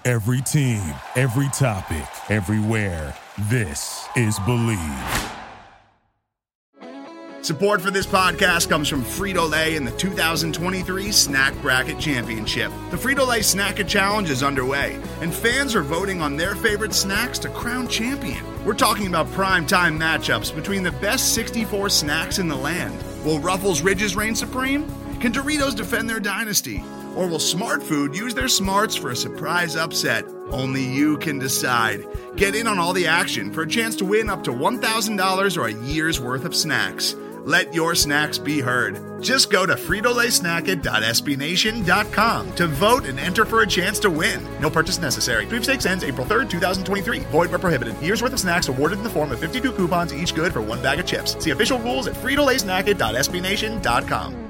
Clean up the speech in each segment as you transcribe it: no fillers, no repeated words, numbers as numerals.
Every team, every topic, everywhere. This is Believe. Support for this podcast comes from Frito-Lay and the 2023 Snack Bracket Championship. The Frito-Lay Snack-It Challenge is underway, and fans are voting on their favorite snacks to crown champion. We're talking about prime-time matchups between the best 64 snacks in the land. Will Ruffles Ridges reign supreme? Can Doritos defend their dynasty? Or will Smart Food use their smarts for a surprise upset? Only you can decide. Get in on all the action for a chance to win up to $1,000 or a year's worth of snacks. Let your snacks be heard. Just go to fritolaysnacket.sbnation.com to vote and enter for a chance to win. No purchase necessary. Sweepstakes ends April 3rd, 2023. Void where prohibited. Year's worth of snacks awarded in the form of 52 coupons, each good for one bag of chips. See official rules at fritolaysnacket.sbnation.com.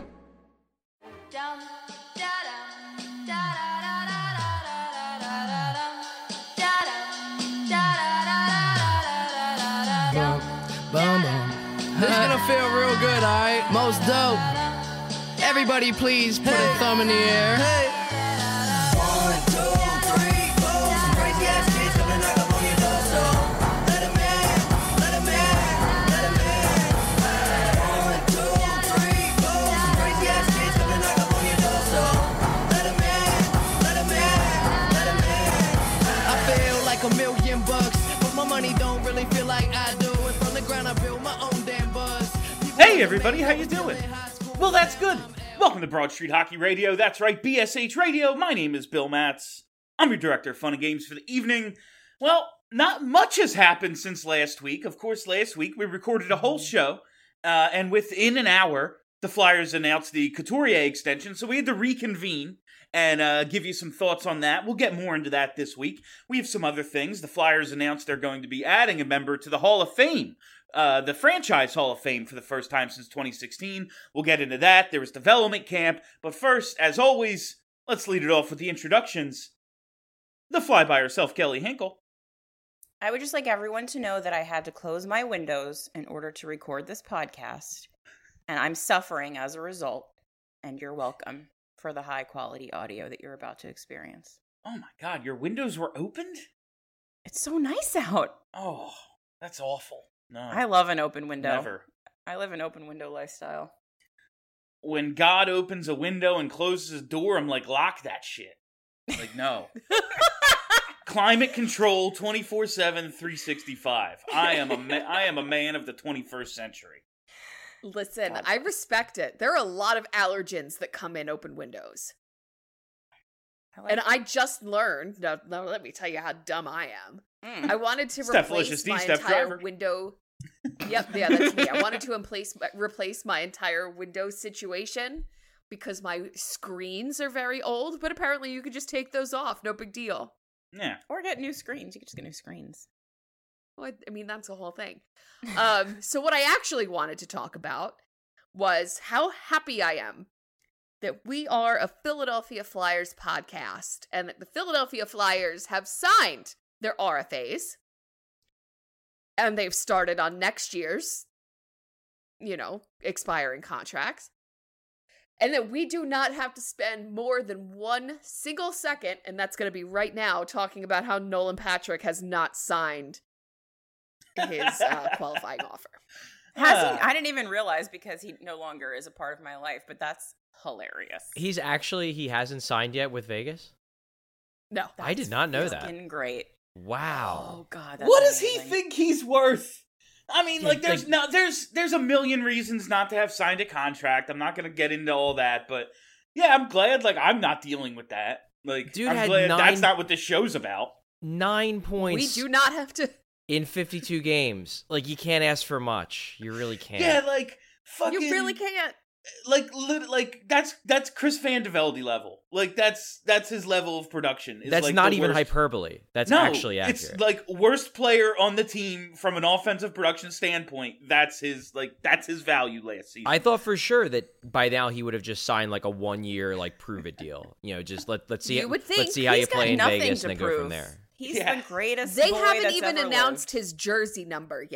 This is gonna feel real good, alright? Most dope. Everybody please put a thumb in the air. Hey. 1, 2, 3, 4. Some crazy ass kids coming knock up on your door, so let 'em in, let 'em in, let 'em in. 1, 2, 3, 4. Some crazy ass kids coming knock up on your door, so let 'em in, let 'em in, let 'em in. I feel like $1,000,000, but my money don't really feel like I do. And from the ground I build my own damn buzz. Hey everybody, how you doing? Well, that's good. Welcome to Broad Street Hockey Radio. That's right, BSH Radio. My name is Bill Matz. I'm your director of fun and games for the evening. Well, not much has happened since last week. Of course, last week we recorded a whole show, and within an hour, the Flyers announced the Couturier extension, so we had to reconvene and give you some thoughts on that. We'll get more into that this week. We have some other things. The Flyers announced they're going to be adding a member to the Hall of Fame. The franchise Hall of Fame for the first time since 2016. We'll get into that. There was development camp. But first, as always, let's lead it off with the introductions. The fly by herself, Kelly Hinkle. I would just like everyone to know that I had to close my windows in order to record this podcast. And I'm suffering as a result. And you're welcome for the high quality audio that you're about to experience. Oh my god, your windows were opened? It's so nice out. Oh, that's awful. No. I love an open window. Never. I live an open window lifestyle. When God opens a window and closes a door, I'm like, lock that shit. Like, no. Climate control 24/7, 365. I am a man of the 21st century. Listen, I respect it. There are a lot of allergens that come in open windows. I just learned, now let me tell you how dumb I am. I wanted to replace my entire window. Yep, yeah, that's me. I wanted to replace my entire window situation because my screens are very old, but apparently you could just take those off. No big deal. Yeah. Or get new screens. You could just get new screens. Well, I mean, that's the whole thing. So what I actually wanted to talk about was how happy I am that we are a Philadelphia Flyers podcast and that the Philadelphia Flyers have signed their RFAs and they've started on next year's, expiring contracts. And that we do not have to spend more than 1 single second, and that's going to be right now, talking about how Nolan Patrick has not signed his qualifying offer. I didn't even realize because he no longer is a part of my life, but that's hilarious. He hasn't signed yet with Vegas? No. I did not know that. Fucking great. Wow. Oh god. That's what amazing. does he think he's worth? I mean, there's a million reasons not to have signed a contract. I'm not going to get into all that, but yeah, I'm glad I'm not dealing with that. Dude, I'm glad that's not what this show's about. 9 points. We do not have to in 52 games. You can't ask for much. You really can't. Yeah, fucking You really can't. That's Chris Van de Velde level. That's his level of production. That's not even hyperbole. That's actually accurate. It's worst player on the team from an offensive production standpoint. That's his value last season. I thought for sure that by now he would have just signed a 1 year prove it deal. Just let's see. Let's see how you play in Vegas and then go from there. He's the greatest. They boy haven't that's even ever announced lived. his jersey number yet.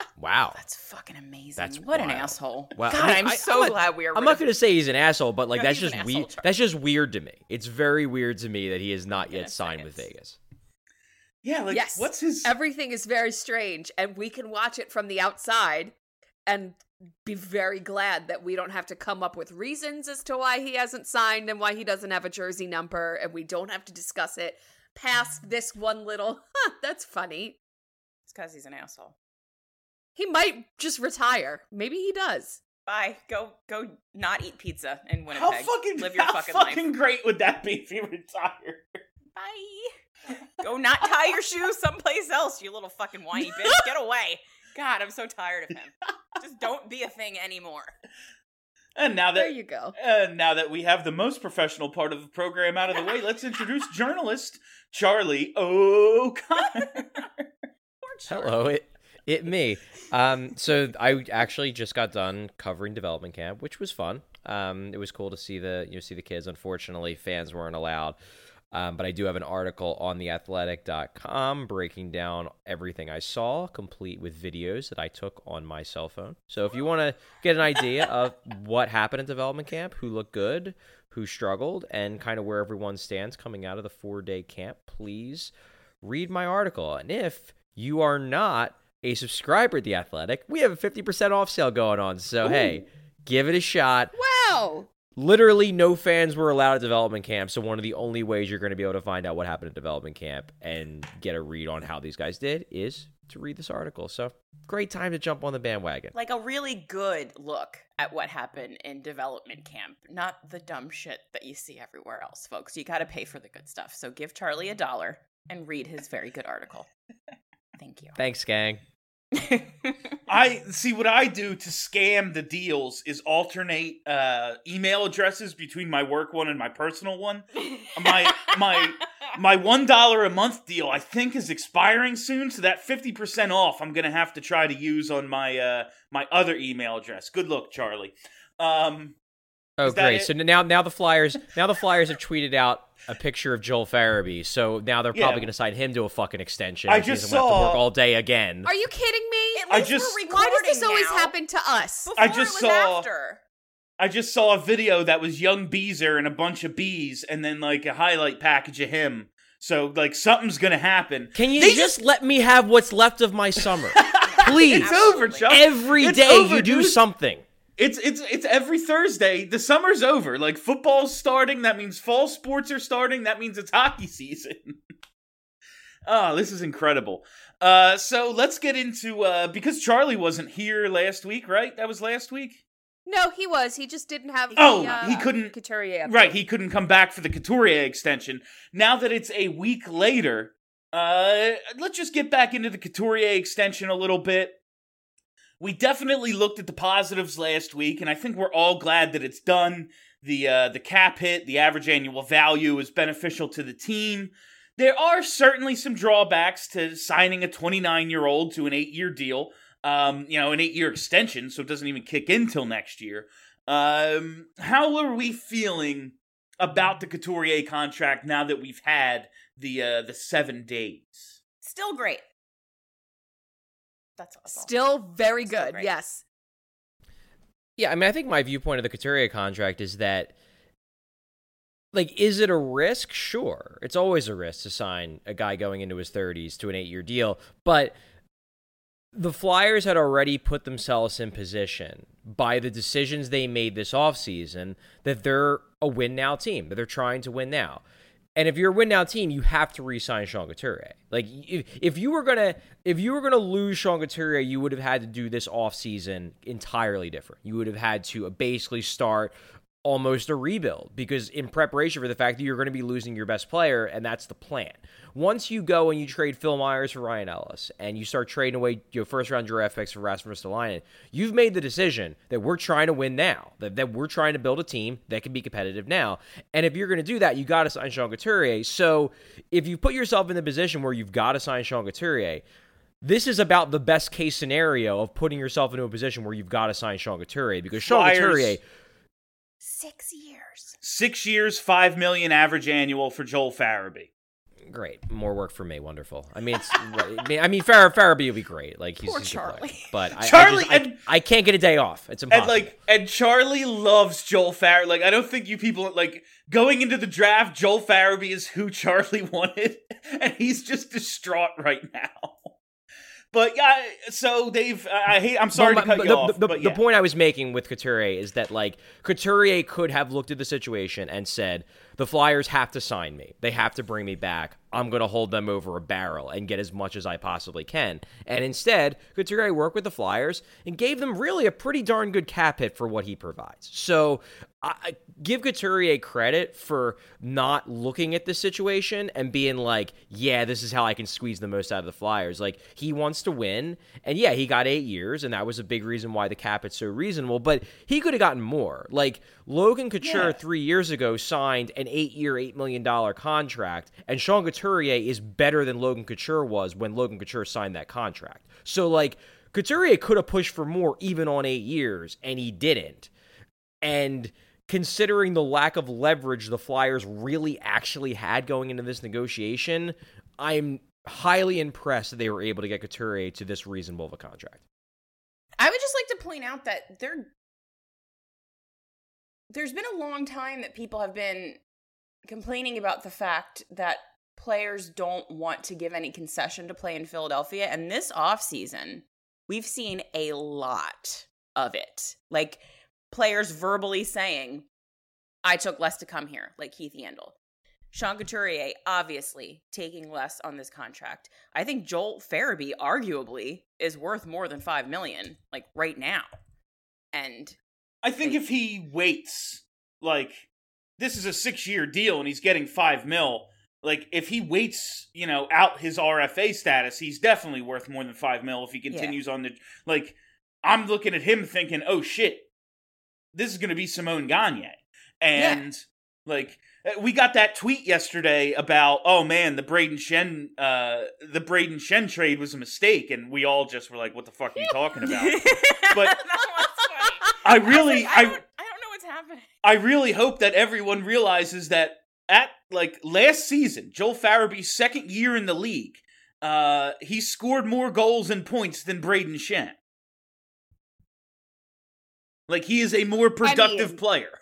Wow. That's fucking amazing. That's what an wild. asshole. Wow. God, I mean, I'm so glad we are. I'm not going to say he's an asshole, but like No, that's he's just an weird. asshole, Charlie. That's just weird to me. It's very weird to me that he has not yet Goodness signed with sakes. Vegas. Yeah, like, Yes. what's his... Everything is very strange, and we can watch it from the outside and be very glad that we don't have to come up with reasons as to why he hasn't signed and why he doesn't have a jersey number, and we don't have to discuss it past this one little, that's funny. It's because he's an asshole. He might just retire. Maybe he does. Bye. Go not eat pizza in Winnipeg. How fucking, Live your how fucking fucking life. great would that be if he retired? Bye. Go not tie your shoes someplace else, you little fucking whiny bitch. Get away. God, I'm so tired of him. Just don't be a thing anymore. And now There that you go. now that we have the most professional part of the program out of the way, let's introduce journalist Charlie O'Connor. Hello, it me. So I actually just got done covering development camp, which was fun. It was cool to see the kids. Unfortunately, fans weren't allowed. But I do have an article on theathletic.com breaking down everything I saw, complete with videos that I took on my cell phone. So if you want to get an idea of what happened at development camp, who looked good, who struggled, and kind of where everyone stands coming out of the 4-day camp, please read my article. And if you are not a subscriber at The Athletic, we have a 50% off sale going on. So, hey, give it a shot. Wow. Literally no fans were allowed at development camp, so one of the only ways you're going to be able to find out what happened at development camp and get a read on how these guys did is to read this article. So, great time to jump on the bandwagon. Like a really good look at what happened in development camp, not the dumb shit that you see everywhere else, folks. You got to pay for the good stuff. So give Charlie $1 and read his very good article. Thank you. Thanks, gang. I see what I do to scam the deals is alternate email addresses between my work one and my personal one. My $1 a month deal I think is expiring soon, so that 50% off I'm gonna have to try to use on my my other email address. Good luck, Charlie. Oh, great! So now the Flyers have tweeted out a picture of Joel Farabee. So now they're probably going to sign him to a fucking extension. I which just means I'm gonna have to saw- work all day again. Are you kidding me? At least we're Why does this recording always now. happen to us? Before I just it was saw- after. I just saw a video that was young Beezer and a bunch of bees, and then like a highlight package of him. So like something's gonna happen. Can you just let me have what's left of my summer, please? It's over, Chuck. Every It's day over, you do dude. something. It's every Thursday. The summer's over. Like football's starting. That means fall sports are starting. That means it's hockey season. Oh, this is incredible. So let's get into because Charlie wasn't here last week, right? That was last week. No, he was. He just didn't have He couldn't. Couturier update. Right, he couldn't come back for the Couturier extension. Now that it's a week later, let's just get back into the Couturier extension a little bit. We definitely looked at the positives last week, and I think we're all glad that it's done. The cap hit, the average annual value is beneficial to the team. There are certainly some drawbacks to signing a 29-year-old to an 8-year deal. An 8-year extension, so it doesn't even kick in till next year. How are we feeling about the Couturier contract now that we've had the 7 days? Still great. That's awesome. Still very Still good. great. Yes. Yeah, I mean, I think my viewpoint of the Couturier contract is that, like, is it a risk? Sure. It's always a risk to sign a guy going into his 30s to an 8-year deal, but the Flyers had already put themselves in position by the decisions they made this offseason that they're a win-now team, that they're trying to win now. And if you're a win-now team, you have to re-sign Sean Couturier. Like, if you were gonna lose Sean Couturier, you would have had to do this offseason entirely different. You would have had to basically start almost a rebuild, because in preparation for the fact that you're going to be losing your best player, and that's the plan. Once you go and you trade Phil Myers for Ryan Ellis, and you start trading away your first-round draft picks for Rasmus Ristolainen, you've made the decision that we're trying to win now, that we're trying to build a team that can be competitive now. And if you're going to do that, you got to sign Sean Couturier. So if you put yourself in the position where you've got to sign Sean Couturier, this is about the best-case scenario of putting yourself into a position where you've got to sign Sean Couturier, because Sean Couturier... 6 years. 6 years, $5 million average annual for Joel Farabee. Great, more work for me. Wonderful. I mean, Farabee would be great. Like he's Poor a good player. Charlie. But Charlie I can't get a day off. It's impossible. And Charlie loves Joel Farabee. Like, I don't think you people, like, going into the draft, Joel Farabee is who Charlie wanted, and he's just distraught right now. But yeah, so I'm sorry to cut you off. The point I was making with Couturier is that, like, Couturier could have looked at the situation and said, the Flyers have to sign me. They have to bring me back. I'm going to hold them over a barrel and get as much as I possibly can. And instead, Couturier worked with the Flyers and gave them really a pretty darn good cap hit for what he provides. So I give Couturier credit for not looking at the situation and being like, yeah, this is how I can squeeze the most out of the Flyers. Like, he wants to win. And yeah, he got 8 years, and that was a big reason why the cap is so reasonable. But he could have gotten more. Like, Logan Couture 3 years ago signed an 8-year, $8 million contract, and Sean Couturier is better than Logan Couture was when Logan Couture signed that contract. So, like, Couturier could have pushed for more even on 8 years, and he didn't. And considering the lack of leverage the Flyers really actually had going into this negotiation, I'm highly impressed that they were able to get Couturier to this reasonable of a contract. I would just like to point out that there's been a long time that people have been complaining about the fact that players don't want to give any concession to play in Philadelphia. And this offseason, we've seen a lot of it. Like, players verbally saying, I took less to come here, like Keith Yandel. Sean Couturier, obviously, taking less on this contract. I think Joel Farabee, arguably, is worth more than $5 million, like, right now. And I think if he waits, like, this is a 6-year deal and he's getting $5 million. Like, if he waits, out his RFA status, he's definitely worth more than $5 million if he continues on the, like, I'm looking at him thinking, oh shit, this is going to be Simone Gagne. And, like, we got that tweet yesterday about, oh man, the Braden Shen trade was a mistake, and we all just were like, what the fuck are you talking about? But I don't know what's happening. I really hope that everyone realizes that at, like, last season, Joel Farabee's second year in the league, he scored more goals and points than Braden Shen. Like, he is a more productive player,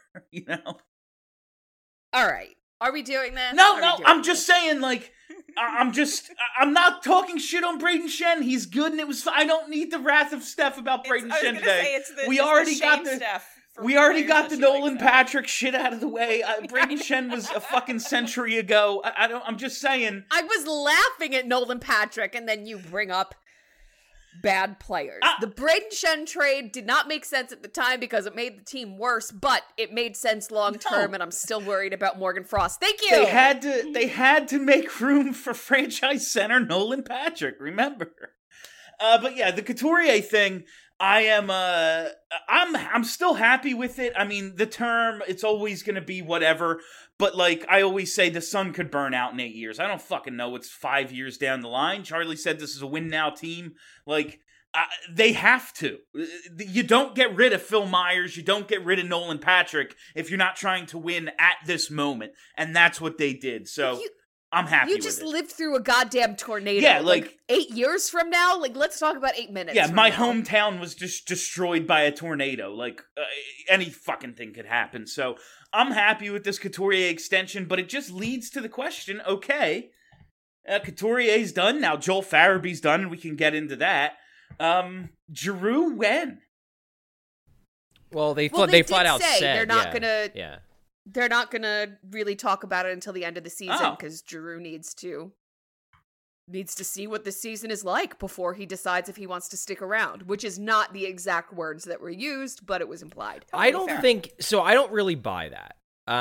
All right. Are we doing this? No, I'm just saying, like, I'm not talking shit on Braden Shen. He's good, and I don't need the wrath of Steph about Braden Shen today. We already got the Nolan Patrick shit out of the way. Braden Shen was a fucking century ago. I'm just saying. I was laughing at Nolan Patrick, and then you bring up bad players. The Braden Shen trade did not make sense at the time because it made the team worse, but it made sense long term, and I'm still worried about Morgan Frost. Thank you. They had to make room for franchise center Nolan Patrick. Remember, but yeah, the Couturier thing. I'm still happy with it. I mean, the term, it's always going to be whatever, but like I always say, the sun could burn out in 8 years. I don't fucking know. It's 5 years down the line. Charlie said this is a win now team. Like, they have to. You don't get rid of Phil Myers. You don't get rid of Nolan Patrick if you're not trying to win at this moment. And that's what they did. So I'm happy with it. You just lived through a goddamn tornado. Yeah, like 8 years from now? Like, let's talk about 8 minutes. Yeah, my hometown was just destroyed by a tornado. Like, any fucking thing could happen. So I'm happy with this Couturier extension, but it just leads to the question, okay, Couturier's done. Now Joel Farabee's done, and we can get into that. Giroux, when? Well, they flat out said they're not gonna. Yeah. They're not going to really talk about it until the end of the season because Giroux needs to see what the season is like before he decides if he wants to stick around, which is not the exact words that were used, but it was implied. I don't really buy that.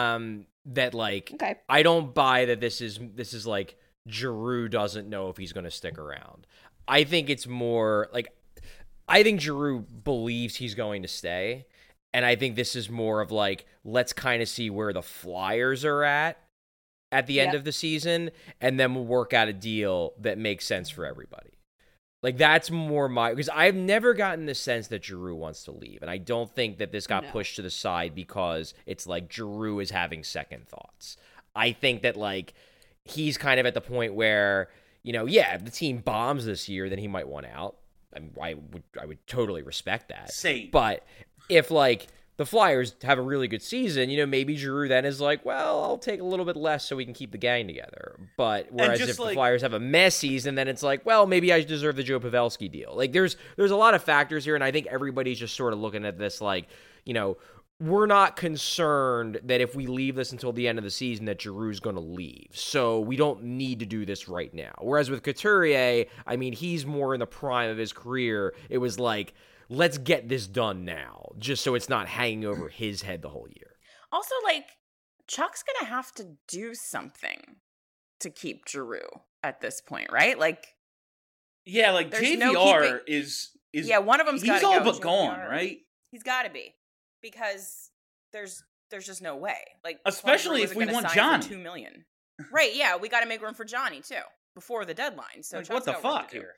I don't buy that this is like Giroux doesn't know if he's going to stick around. I think it's more like I think Giroux believes he's going to stay. And I think this is more of like, let's kind of see where the Flyers are at the end of the season, and then we'll work out a deal that makes sense for everybody. Like, that's more because I've never gotten the sense that Giroux wants to leave. And I don't think that this got pushed to the side because it's like Giroux is having second thoughts. I think that, like, he's kind of at the point where, if the team bombs this year, then he might want out. I mean, I would totally respect that. Same. But if the Flyers have a really good season, maybe Giroux then is like, well, I'll take a little bit less so we can keep the gang together. But whereas if the Flyers have a mess season, then it's like, well, maybe I deserve the Joe Pavelski deal. There's a lot of factors here, and I think everybody's just sort of looking at this we're not concerned that if we leave this until the end of the season that Giroux's going to leave. So we don't need to do this right now. Whereas with Couturier, I mean, he's more in the prime of his career. It was like, let's get this done now, just so it's not hanging over his head the whole year. Also, Chuck's going to have to do something to keep Giroux at this point, right? Yeah, JVR is yeah, one of them's got to go. He's all but JVR, gone, right? He's got to be. Because there's just no way. Especially if we want Johnny. $2 million. Right, yeah, we got to make room for Johnny too before the deadline. So what the fuck here?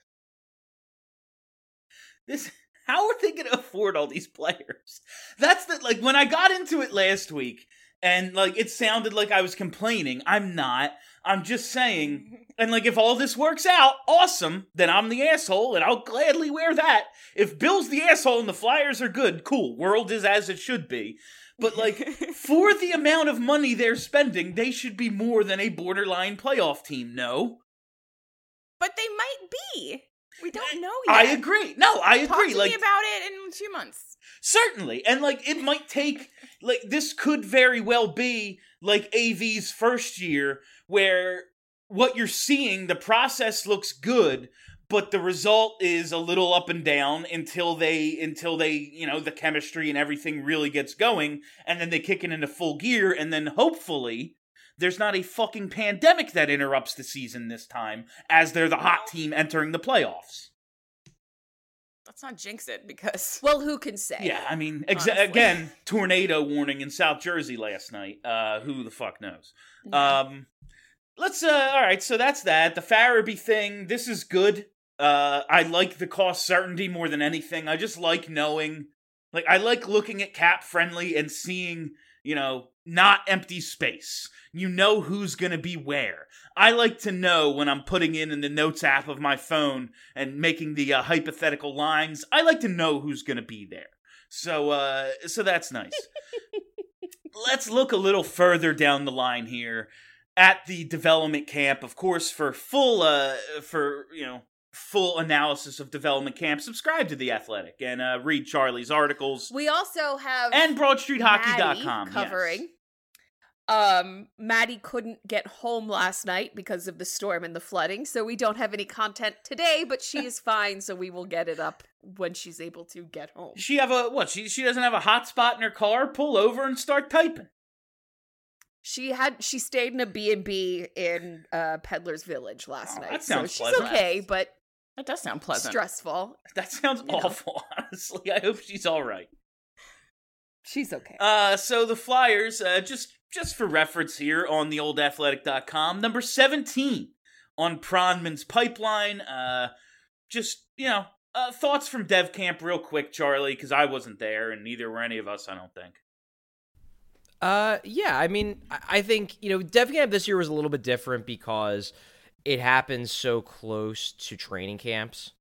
How are they going to afford all these players? That's when I got into it last week and it sounded like I was complaining. I'm not. I'm just saying, and if all this works out, awesome, then I'm the asshole, and I'll gladly wear that. If Bill's the asshole and the Flyers are good, cool, world is as it should be. But, for the amount of money they're spending, they should be more than a borderline playoff team, no? But they might be. We don't know yet. I agree. No, I agree. Talk to me about it in 2 months. Certainly. And, it might take, this could very well be, AV's first year, where what you're seeing, the process looks good, but the result is a little up and down until they, the chemistry and everything really gets going, and then they kick it into full gear, and then hopefully there's not a fucking pandemic that interrupts the season this time, as they're the hot team entering the playoffs. Let's not jinx it, because... Well, who can say? Yeah, I mean, again, tornado warning in South Jersey last night. Who the fuck knows? Yeah. All right, so that's that. The Farabee thing, this is good. I like the cost certainty more than anything. I just like knowing, I like looking at Cap Friendly and seeing, not empty space. You know who's going to be where. I like to know when I'm putting in the notes app of my phone and making the hypothetical lines. I like to know who's going to be there. So that's nice. Let's look a little further down the line here at the development camp. Of course, for full analysis of development camp, subscribe to The Athletic and read Charlie's articles. We also have and BroadStreetHockey.com covering. Yes. Maddie couldn't get home last night because of the storm and the flooding, so we don't have any content today, but she is fine, so we will get it up when she's able to get home. She have she doesn't have a hotspot in her car? Pull over and start typing. She stayed in a B&B in Peddler's Village last night. That sounds so pleasant. She's okay, but that does sound pleasant. Stressful. That sounds awful, honestly. I hope she's all right. She's okay. So the Flyers, just for reference here on the old athletic.com, number 17 on Pronman's pipeline. Thoughts from Dev Camp real quick, Charlie, because I wasn't there and neither were any of us, I don't think. Yeah, I mean, I think, Dev Camp this year was a little bit different because it happens so close to training camps.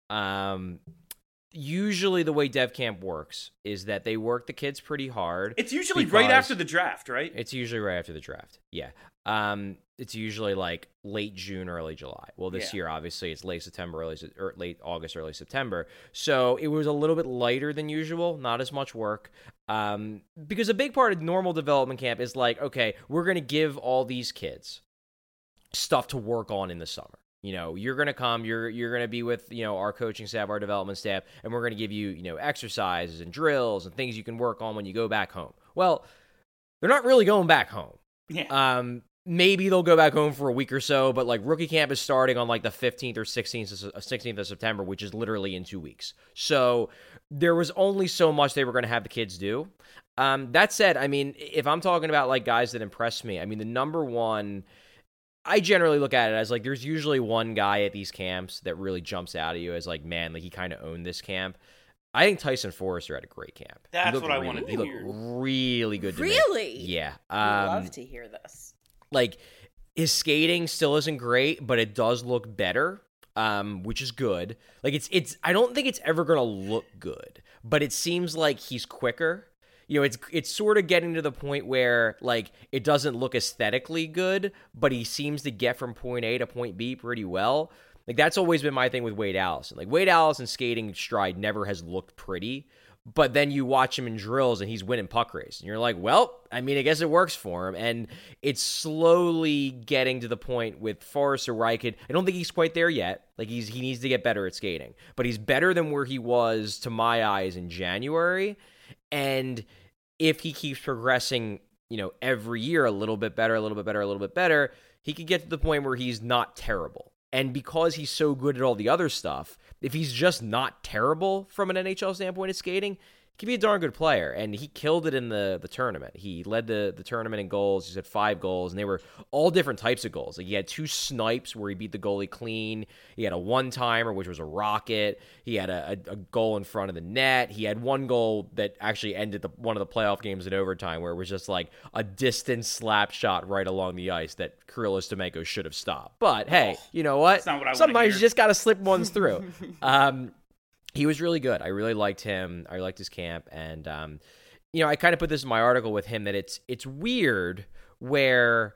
Usually the way Dev Camp works is that they work the kids pretty hard. It's usually right after the draft, right? It's usually right after the draft, yeah. It's usually late June, early July. Well, this year, obviously, it's late August, early September. So it was a little bit lighter than usual, not as much work. Because a big part of normal development camp is okay, we're going to give all these kids stuff to work on in the summer. You're going to come, you're going to be with, our coaching staff, our development staff, and we're going to give you, exercises and drills and things you can work on when you go back home. Well, they're not really going back home. Yeah. Maybe they'll go back home for a week or so, but rookie camp is starting on the 15th or 16th of September, which is literally in 2 weeks. So there was only so much they were going to have the kids do. That said, I mean, if I'm talking about guys that impressed me, I mean, the number one, I generally look at it as there's usually one guy at these camps that really jumps out at you as man, he kind of owned this camp. I think Tyson Forrester had a great camp. That's what I wanted to hear. He looked really good to me. Really? Yeah. I'd love to hear this. His skating still isn't great, but it does look better, which is good. Like it's I don't think it's ever going to look good, but it seems like he's quicker. You know, it's sort of getting to the point where like it doesn't look aesthetically good, but he seems to get from point A to point B pretty well. Like that's always been my thing with Wade Allison. Like Wade Allison's skating stride never has looked pretty. But then you watch him in drills and he's winning puck race. And you're like, well, I mean, I guess it works for him. And it's slowly getting to the point with Forrester where I don't think he's quite there yet. Like he needs to get better at skating. But he's better than where he was, to my eyes, in January. And if he keeps progressing, you know, every year a little bit better, a little bit better, a little bit better, he could get to the point where he's not terrible. And because he's so good at all the other stuff, if he's just not terrible from an NHL standpoint of skating, he can be a darn good player. And he killed it in the tournament. He led the tournament in goals. He's had 5 goals, and they were all different types of goals. Like he had 2 snipes where he beat the goalie clean. He had a one-timer, which was a rocket. He had a goal in front of the net. He had 1 goal that actually ended one of the playoff games in overtime, where it was just like a distant slap shot right along the ice that Kirill Stemenko should have stopped. But hey, you know what? That's not what I Sometimes you just got to slip ones through. He was really good. I really liked him. I liked his camp. And, you know, I kind of put this in my article with him that it's weird where,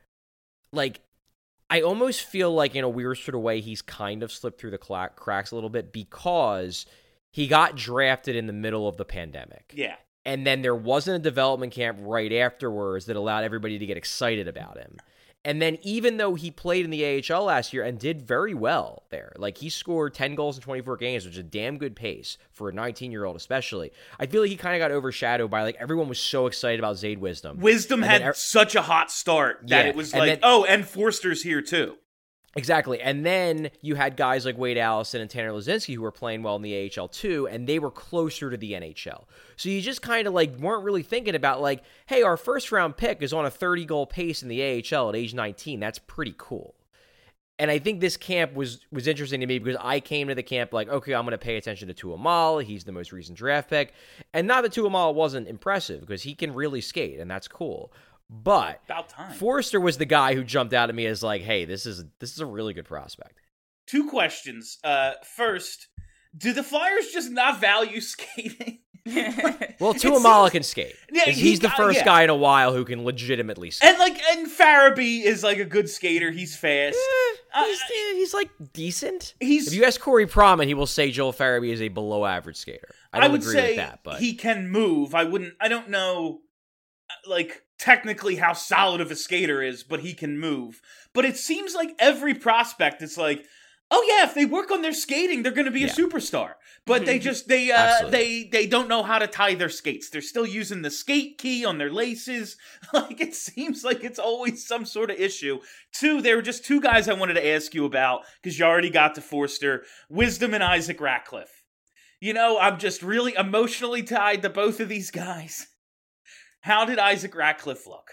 like, I almost feel like in a weird sort of way he's kind of slipped through the cracks a little bit because he got drafted in the middle of the pandemic. Yeah. And then there wasn't a development camp right afterwards that allowed everybody to get excited about him. And then even though he played in the AHL last year and did very well there, like he scored 10 goals in 24 games, which is a damn good pace for a 19-year-old especially, I feel like he kind of got overshadowed by, like, everyone was so excited about Zade Wisdom. Wisdom had such a hot start that it was like, and Forster's here too. Exactly. And then you had guys like Wade Allison and Tanner Lazinski who were playing well in the AHL too, and they were closer to the NHL. So you just kind of like weren't really thinking about like, hey, our first round pick is on a 30-goal pace in the AHL at age 19. That's pretty cool. And I think this camp was interesting to me because I came to the camp like, okay, I'm going to pay attention to Tuomal. He's the most recent draft pick. And not that Tuomal wasn't impressive because he can really skate, and that's cool. But about time. Forster was the guy who jumped out at me as like, hey, this is a really good prospect. 2 questions. First, do the Flyers just not value skating? Well, Tuomal can skate. Yeah, he's the first guy in a while who can legitimately skate. And Farabee is like a good skater. He's fast. He's like decent. If you ask Corey Prom, he will say Joel Farabee is a below average skater. I would agree say with that, but he can move. I don't know, like, technically how solid of a skater is, but he can move. But it seems like every prospect is like, oh yeah, if they work on their skating, they're going to be a superstar. But they just they don't know how to tie their skates. They're still using the skate key on their laces. Like, it seems like it's always some sort of issue. 2, there were just 2 guys I wanted to ask you about because you already got to Forster, Wisdom and Isaac Ratcliffe. You know, I'm just really emotionally tied to both of these guys. How did Isaac Ratcliffe look?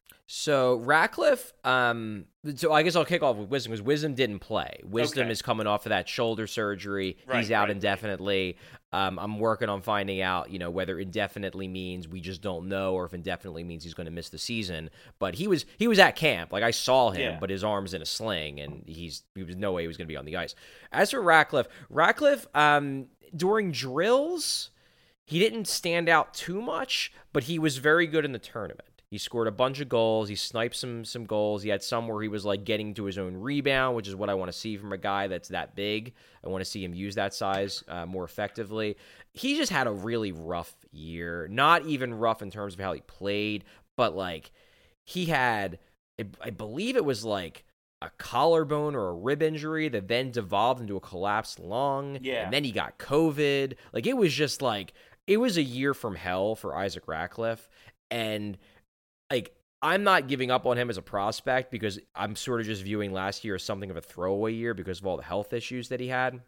So Ratcliffe, so I guess I'll kick off with Wisdom because Wisdom didn't play. Wisdom is coming off of that shoulder surgery. He's out indefinitely. I'm working on finding out, you know, whether indefinitely means we just don't know or if indefinitely means he's going to miss the season. But he was at camp. Like, I saw him, but his arm's in a sling, and he was no way he was going to be on the ice. As for Ratcliffe, during drills, he didn't stand out too much, but he was very good in the tournament. He scored a bunch of goals. He sniped some goals. He had some where he was like getting to his own rebound, which is what I want to see from a guy that's that big. I want to see him use that size more effectively. He just had a really rough year. Not even rough in terms of how he played, but like he had, I believe it was like a collarbone or a rib injury that then devolved into a collapsed lung. Yeah. And then he got COVID. Like, it was just like, it was a year from hell for Isaac Ratcliffe. And like, I'm not giving up on him as a prospect because I'm sort of just viewing last year as something of a throwaway year because of all the health issues that he had.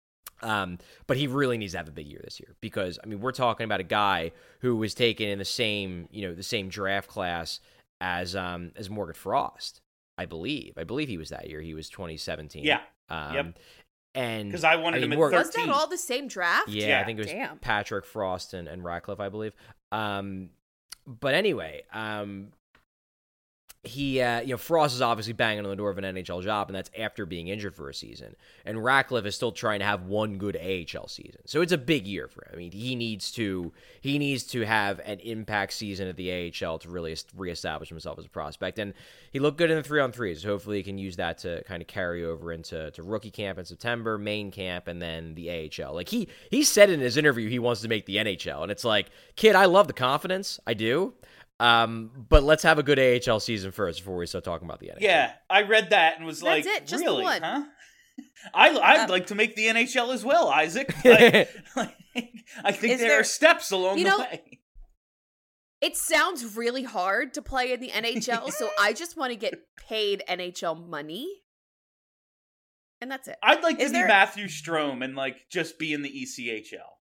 But he really needs to have a big year this year because, I mean, we're talking about a guy who was taken in the same draft class as Morgan Frost, I believe. I believe he was that year. He was 2017. Yeah. Yep. And because I wanted him at 13. Was that all the same draft? Yeah, I think it was Patrick Frost and Ratcliffe, I believe. But anyway, he, Frost is obviously banging on the door of an NHL job, and that's after being injured for a season. And Ratcliffe is still trying to have one good AHL season, so it's a big year for him. I mean, he needs to have an impact season at the AHL to really reestablish himself as a prospect. And he looked good in the 3-on-3s. So hopefully, he can use that to kind of carry over into rookie camp in September, main camp, and then the AHL. Like he said in his interview, he wants to make the NHL, and it's like, kid, I love the confidence, I do. But let's have a good AHL season first before we start talking about the NHL. Yeah, I read that and was That's like, it, just really, the one. huh? I'd like to make the NHL as well, Isaac. I think there are steps along the way. It sounds really hard to play in the NHL, so I just want to get paid NHL money. And that's it. I'd like to be Matthew Strome and just be in the ECHL.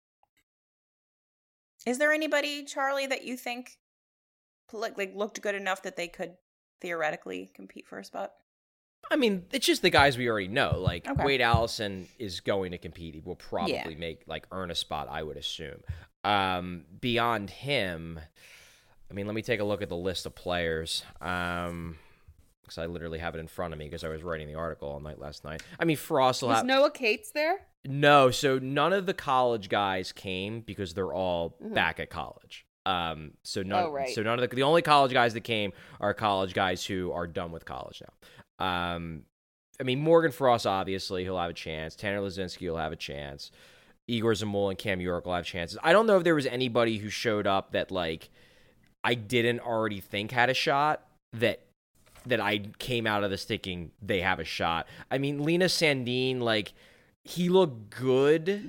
Is there anybody, Charlie, that you think looked good enough that they could theoretically compete for a spot? I mean, it's just the guys we already know. Like, Okay. Wade Allison is going to compete. He will probably earn a spot, I would assume. Beyond him, I mean, let me take a look at the list of players. Because I literally have it in front of me because I was writing the article all night last night. I mean, Frost will have... Was Noah Cates there? No, so none of the college guys came because they're all back at college. So none of the only college guys that came are college guys who are done with college now. I mean, Morgan Frost, obviously, he'll have a chance. Tanner Lazinski will have a chance. Igor Zamula and Cam York will have chances. I don't know if there was anybody who showed up that, I didn't already think had a shot that I came out of this thinking they have a shot. I mean, Linus Sandin, he looked good in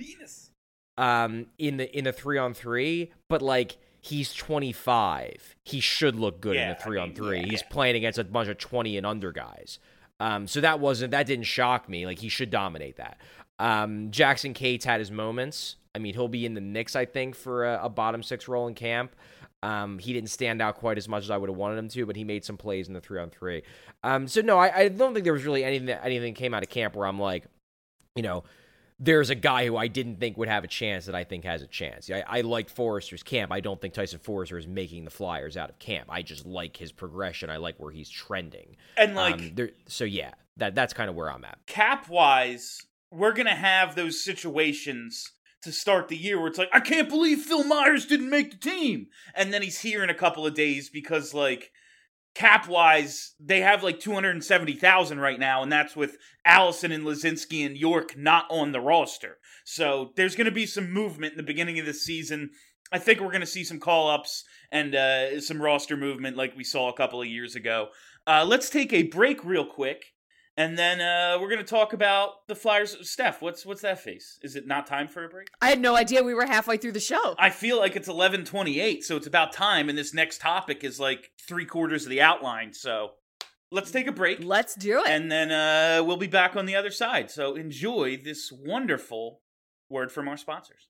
the 3-on-3, but, he's 25. He should look good in the 3-on-3. He's playing against a bunch of 20 and under guys. So that didn't shock me. He should dominate that. Jackson Cates had his moments. I mean, he'll be in the mix, I think, for a bottom 6 role in camp. He didn't stand out quite as much as I would have wanted him to, but he made some plays in the 3-on-3. So no, I don't think there was really anything that came out of camp where I'm like, there's a guy who I didn't think would have a chance that I think has a chance. I liked Forrester's camp. I don't think Tyson Forrester is making the Flyers out of camp. I just like his progression. I like where he's trending. And that's kind of where I'm at. Cap-wise, we're going to have those situations to start the year where it's I can't believe Phil Myers didn't make the team. And then he's here in a couple of days because, cap-wise, they have 270,000 right now, and that's with Allison and Lazinski and York not on the roster. So there's going to be some movement in the beginning of the season. I think we're going to see some call-ups and some roster movement like we saw a couple of years ago. Let's take a break real quick, and then we're going to talk about the Flyers. Steph, what's that face? Is it not time for a break? I had no idea we were halfway through the show. I feel like it's 11:28, so it's about time, and this next topic is 3/4 of the outline, so let's take a break. Let's do it. And then we'll be back on the other side, so enjoy this wonderful word from our sponsors.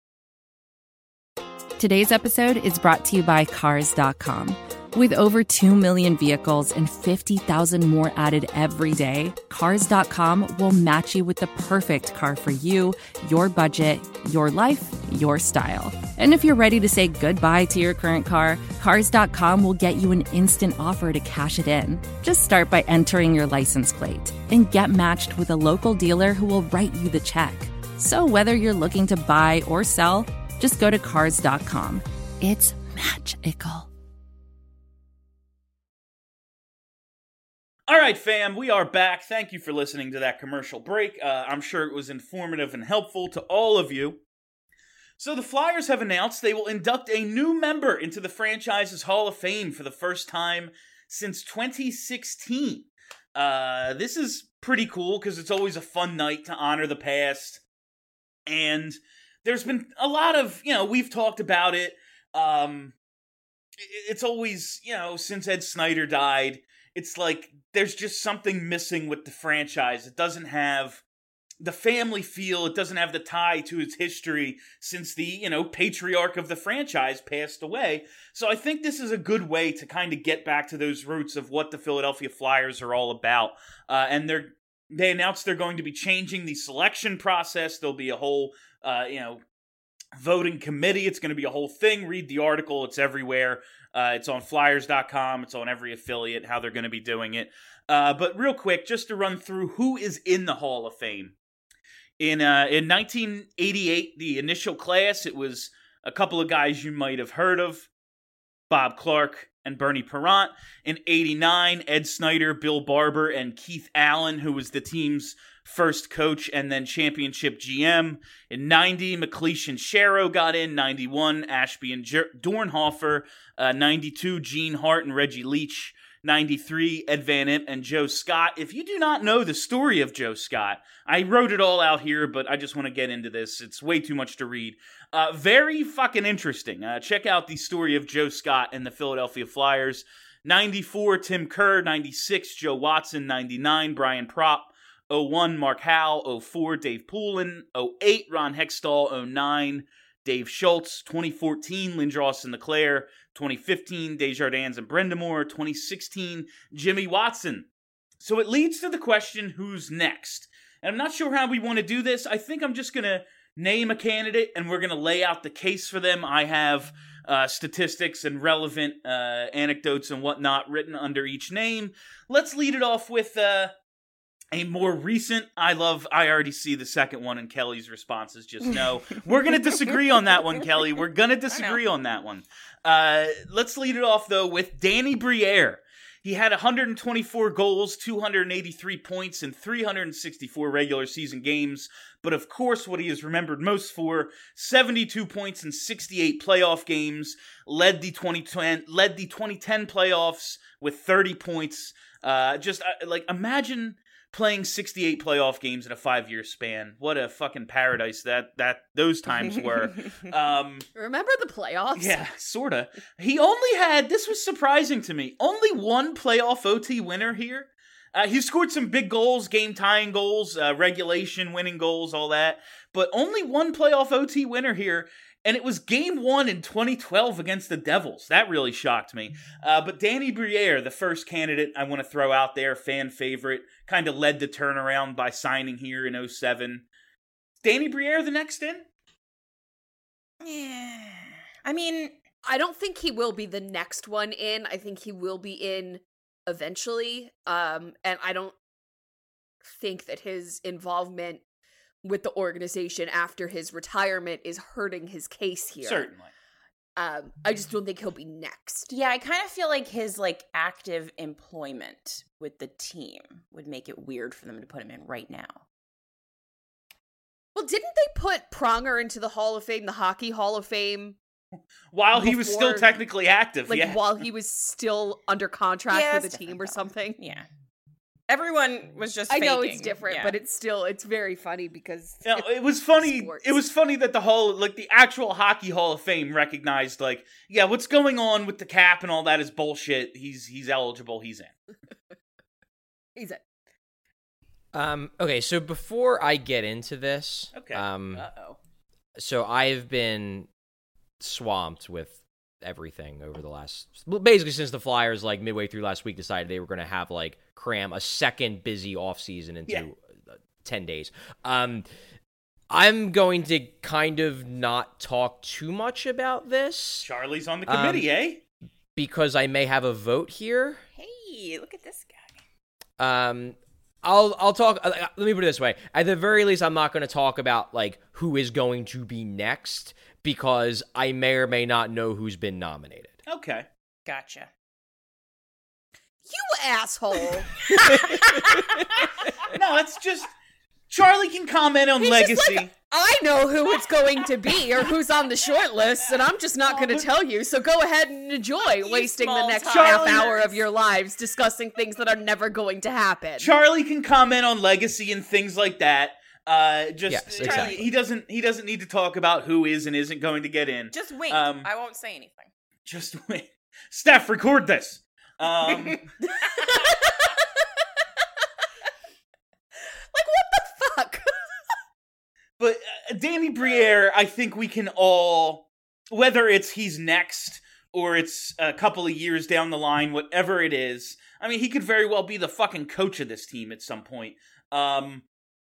Today's episode is brought to you by Cars.com. With over 2 million vehicles and 50,000 more added every day, Cars.com will match you with the perfect car for you, your budget, your life, your style. And if you're ready to say goodbye to your current car, Cars.com will get you an instant offer to cash it in. Just start by entering your license plate and get matched with a local dealer who will write you the check. So whether you're looking to buy or sell, just go to Cars.com. It's magical. All right, fam, we are back. Thank you for listening to that commercial break. I'm sure it was informative and helpful to all of you. So the Flyers have announced they will induct a new member into the franchise's Hall of Fame for the first time since 2016. This is pretty cool because it's always a fun night to honor the past. And there's been a lot of, we've talked about it. It's always, since Ed Snyder died, it's there's just something missing with the franchise. It doesn't have the family feel. It doesn't have the tie to its history since the, patriarch of the franchise passed away. So I think this is a good way to kind of get back to those roots of what the Philadelphia Flyers are all about. And they announced they're going to be changing the selection process. There'll be a whole, voting committee. It's going to be a whole thing. Read the article. It's everywhere. It's on Flyers.com. It's on every affiliate, how they're going to be doing it. But real quick, just to run through who is in the Hall of Fame. In 1988, the initial class, it was a couple of guys you might have heard of, Bob Clark and Bernie Parent. In 89, Ed Snyder, Bill Barber, and Keith Allen, who was the team's first coach and then championship GM. In 90, McLeish and Sharrow got in. 91, Ashby and Dornhofer. 92, Gene Hart and Reggie Leach. 93, Ed Van Impe and Joe Scott. If you do not know the story of Joe Scott, I wrote it all out here, but I just want to get into this. It's way too much to read. Very fucking interesting. Check out the story of Joe Scott and the Philadelphia Flyers. 94, Tim Kerr. 96, Joe Watson. 99, Brian Propp. 01, Mark Howe. 04, Dave Poulin. 08, Ron Hextall. 09, Dave Schultz. 2014, Lindros and LeClaire. 2015, Desjardins and Brendamore. 2016, Jimmy Watson. So it leads to the question, who's next? And I'm not sure how we want to do this. I think I'm just going to name a candidate, and we're going to lay out the case for them. I have statistics and relevant anecdotes and whatnot written under each name. Let's lead it off with a more recent. I already see the second one, and Kelly's response is just no. We're going to disagree on that one, Kelly. We're going to disagree on that one. Let's lead it off, though, with Danny Briere. He had 124 goals, 283 points in 364 regular season games. But of course, what he is remembered most for, 72 points in 68 playoff games, led the 2010 playoffs with 30 points. Imagine playing 68 playoff games in a 5-year span. What a fucking paradise that those times were. Remember the playoffs? Yeah, sorta. He only had, this was surprising to me, only one playoff OT winner here. He scored some big goals, game-tying goals, regulation winning goals, all that. But only one playoff OT winner here. And it was Game 1 in 2012 against the Devils. That really shocked me. But Danny Briere, the first candidate I want to throw out there, fan favorite, kind of led the turnaround by signing here in 07. Danny Briere the next in? Yeah. I mean, I don't think he will be the next one in. I think he will be in eventually. And I don't think that his involvement with the organization after his retirement is hurting his case here. Certainly. I just don't think he'll be next. yeah, I kind of feel like his active employment with the team would make it weird for them to put him in right now. Well, didn't they put Pronger into the Hall of Fame, the Hockey Hall of Fame? While he was still technically active, yeah. While he was still under contract Yeah, with it's a team different, or though. something? Yeah. Everyone was just I know faking. it's different, Yeah. but it's very funny because It was funny. sports. It was funny that the actual Hockey Hall of Fame recognized, what's going on with the cap and all that is bullshit. He's eligible. He's in. He's it. Okay, so before I get into this, Okay. Uh-oh. so I've been swamped with everything over the basically since the Flyers midway through last week decided they were going to have cram a second busy offseason into 10 days. I'm going to kind of not talk too much about this Charlie's on the committee, eh? because I may have a vote here. Hey, look at this guy. I'll talk. Let me put it this way: at the very least, I'm not going to talk about who is going to be next because I may or may not know who's been nominated. Okay. Gotcha. You asshole. No, it's just Charlie can comment on He's legacy. just I know who it's going to be or who's on the short list, and I'm just not going to tell you. So go ahead and enjoy wasting the small next time. half hour of your lives discussing things that are never going to happen. Charlie can comment on legacy and things like that. Yes, exactly. He doesn't need to talk about who is and isn't going to get in. Just wait. Um, I won't say anything. Just wait. Steph, record this. Like, what the fuck? But Danny Briere, I think we can all, whether it's he's next or it's a couple of years down the line, whatever it is, I mean, he could very well be the fucking coach of this team at some point.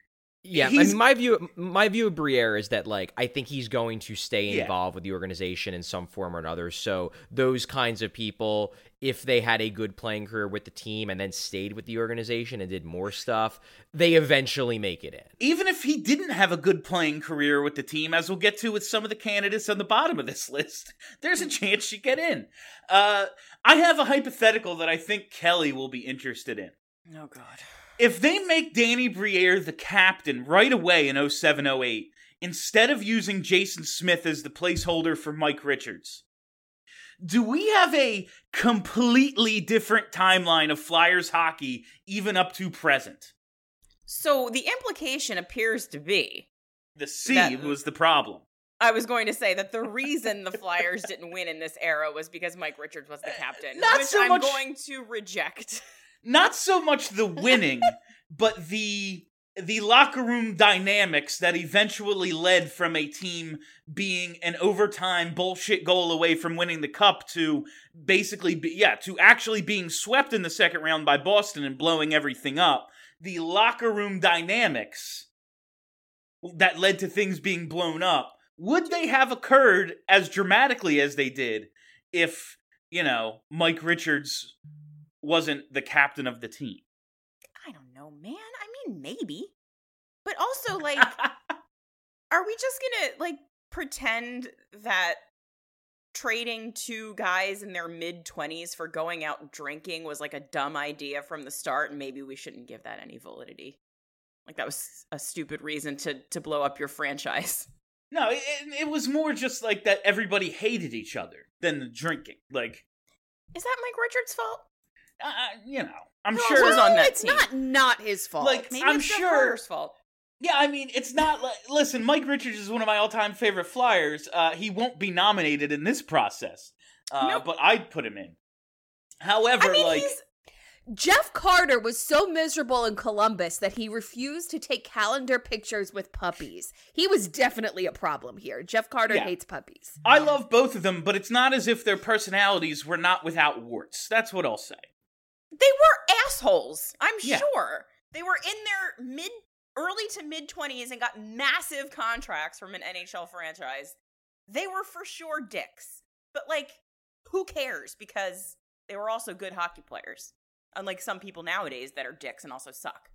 Yeah, I mean, my view of Briere is that, like, I think he's going to stay involved with the organization in some form or another. So those kinds of people, if they had a good playing career with the team and then stayed with the organization and did more stuff, they eventually make it in. Even if he didn't have a good playing career with the team, as we'll get to with some of the candidates on the bottom of this list, there's a chance you get in. I have a hypothetical that I think Kelly will be interested in. Oh, God. If they make Danny Briere the captain right away in 07-08, instead of using Jason Smith as the placeholder for Mike Richards, do we have a completely different timeline of Flyers hockey even up to present? So the implication appears to be... The seed was the problem. I was going to say that the reason the Flyers didn't win in this era was because Mike Richards was the captain, which I'm going to reject. Not so much the winning, but the locker room dynamics that eventually led from a team being an overtime bullshit goal away from winning the cup to basically, to actually being swept in the second round by Boston and blowing everything up. The locker room dynamics that led to things being blown up, would they have occurred as dramatically as they did if, Mike Richards wasn't the captain of the team? I don't know, man. I mean, maybe. But also, like, are we just gonna, pretend that trading two guys in their mid-20s for going out drinking was, a dumb idea from the start, and maybe we shouldn't give that any validity? That was a stupid reason to blow up your franchise. No, it was more just, that everybody hated each other than the drinking. Is that Mike Richards' fault? I'm sure was on that team. It's not his fault. Maybe I'm it's sure Jeff Carter's fault. Yeah, I mean, it's not listen, Mike Richards is one of my all-time favorite Flyers. He won't be nominated in this process. Nope. But I'd put him in. However, Jeff Carter was so miserable in Columbus that he refused to take calendar pictures with puppies. He was definitely a problem here. Jeff Carter hates puppies. I love both of them, but it's not as if their personalities were not without warts. That's what I'll say. They were assholes, I'm sure. They were in their early to mid-20s and got massive contracts from an NHL franchise. They were for sure dicks. But, who cares? Because they were also good hockey players. Unlike some people nowadays that are dicks and also suck.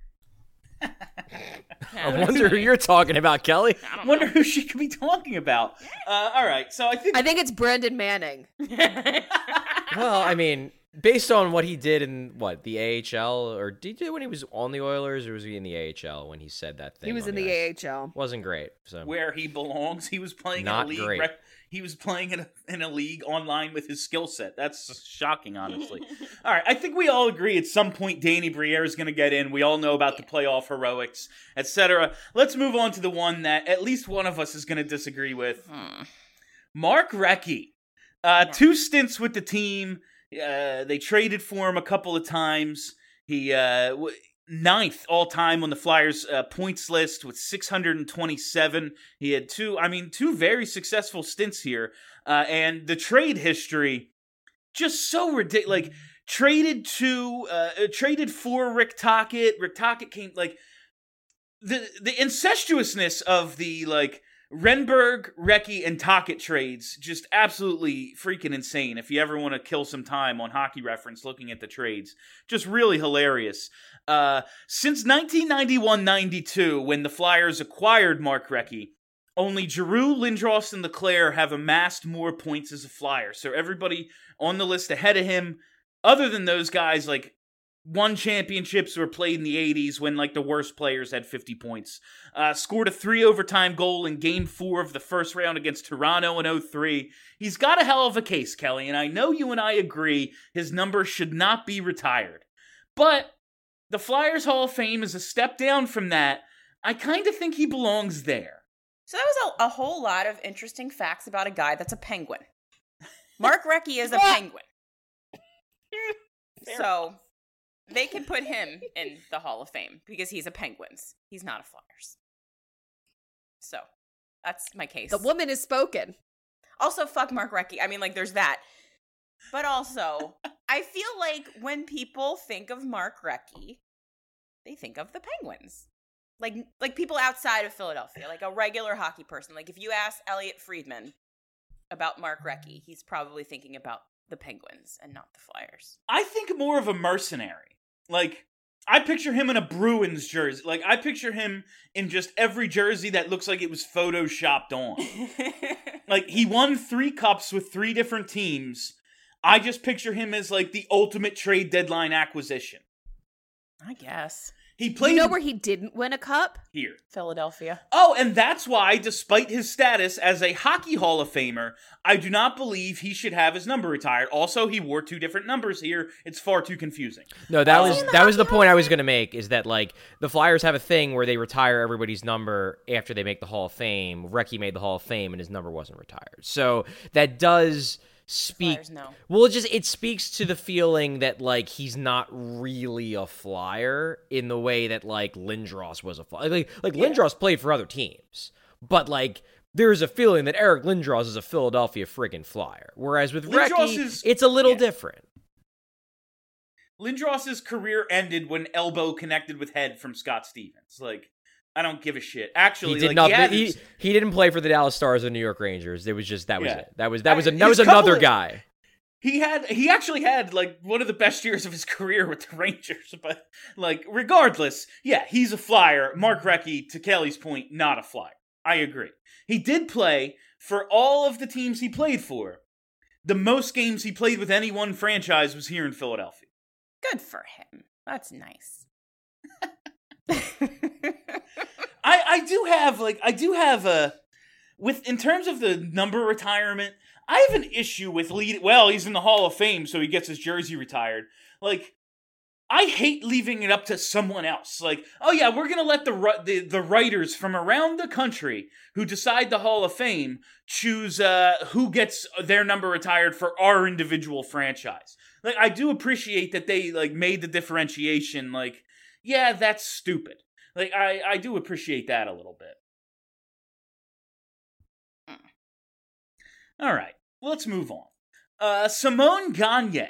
I wonder who you're talking about, Kelly. I wonder who she could be talking about. All right, so I think it's Brandon Manning. Well, I mean, based on what he did in, the AHL, or did he do it when he was on the Oilers, or was he in the AHL when he said that thing? He was in the AHL. Wasn't great. So. Where he belongs. He was playing in a league. Great. He was playing in a league online with his skill set. That's shocking, honestly. All right, I think we all agree at some point Danny Briere is going to get in. We all know about the playoff heroics, etc. Let's move on to the one that at least one of us is going to disagree with. Mark Recchi. 2 stints with the team. They traded for him a couple of times. He 9th all-time on the Flyers points list with 627. He had two very successful stints here. And the trade history, just so ridiculous. Traded for Rick Tocchet. Rick Tocchet came, the incestuousness of the, Renberg, Recchi, and Tocchet trades, just absolutely freaking insane. If you ever want to kill some time on Hockey Reference looking at the trades, just really hilarious. Since 1991-92, when the Flyers acquired Mark Recchi, only Giroux, Lindros, and Leclerc have amassed more points as a Flyer. So everybody on the list ahead of him, other than those guys, won championships or played in the 80s when, the worst players had 50 points. Scored a 3 overtime goal in Game 4 of the first round against Toronto in 03. He's got a hell of a case, Kelly, and I know you and I agree his number should not be retired. But the Flyers Hall of Fame is a step down from that. I kind of think he belongs there. So that was a whole lot of interesting facts about a guy that's a Penguin. Mark Recchi is a Penguin. So they can put him in the Hall of Fame because he's a Penguins. He's not a Flyers. So that's my case. The woman has spoken. Also, fuck Mark Recchi. I mean, there's that. But also, I feel like when people think of Mark Recchi, they think of the Penguins. like people outside of Philadelphia, like a regular hockey person. Like if you ask Elliot Friedman about Mark Recchi, he's probably thinking about the Penguins and not the Flyers. I think more of a mercenary. Like, I picture him in a Bruins jersey. Like, I picture him in just every jersey that looks like it was photoshopped on. Like, he won 3 cups with 3 different teams. I just picture him as, like, the ultimate trade deadline acquisition. I guess. He played... You know where he didn't win a cup? Here. Philadelphia. Oh, and that's why, despite his status as a Hockey Hall of Famer, I do not believe he should have his number retired. Also, he wore 2 different numbers here. It's far too confusing. No, that was the point I was going to make, is that, like, the Flyers have a thing where they retire everybody's number after they make the Hall of Fame. Recchi made the Hall of Fame, and his number wasn't retired. So that does speak... Flyers, no. Well, it speaks to the feeling that, like, he's not really a Flyer in the way that, like, Lindros was a Flyer. Like Lindros played for other teams, but, like, there's a feeling that Eric Lindros is a Philadelphia friggin' Flyer. Whereas with Recchi, it's a little different. Lindros's career ended when elbow connected with head from Scott Stevens. Like, I don't give a shit. Actually, he didn't play for the Dallas Stars or New York Rangers. It was just that was it. That was His another guy. He actually had like one of the best years of his career with the Rangers, but like regardless, yeah, he's a Flyer. Mark Recchi, to Kelly's point, not a Flyer. I agree. He did play for all of the teams he played for. The most games he played with any one franchise was here in Philadelphia. Good for him. That's nice. I do have in terms of the number retirement, I have an issue with he's in the Hall of Fame, so he gets his jersey retired. Like, I hate leaving it up to someone else. Like, oh yeah, we're gonna let the writers from around the country who decide the Hall of Fame choose who gets their number retired for our individual franchise. Like, I do appreciate that they like made the differentiation. Like, yeah, that's stupid. Like, I do appreciate that a little bit. All right, well, let's move on. Simone Gagne,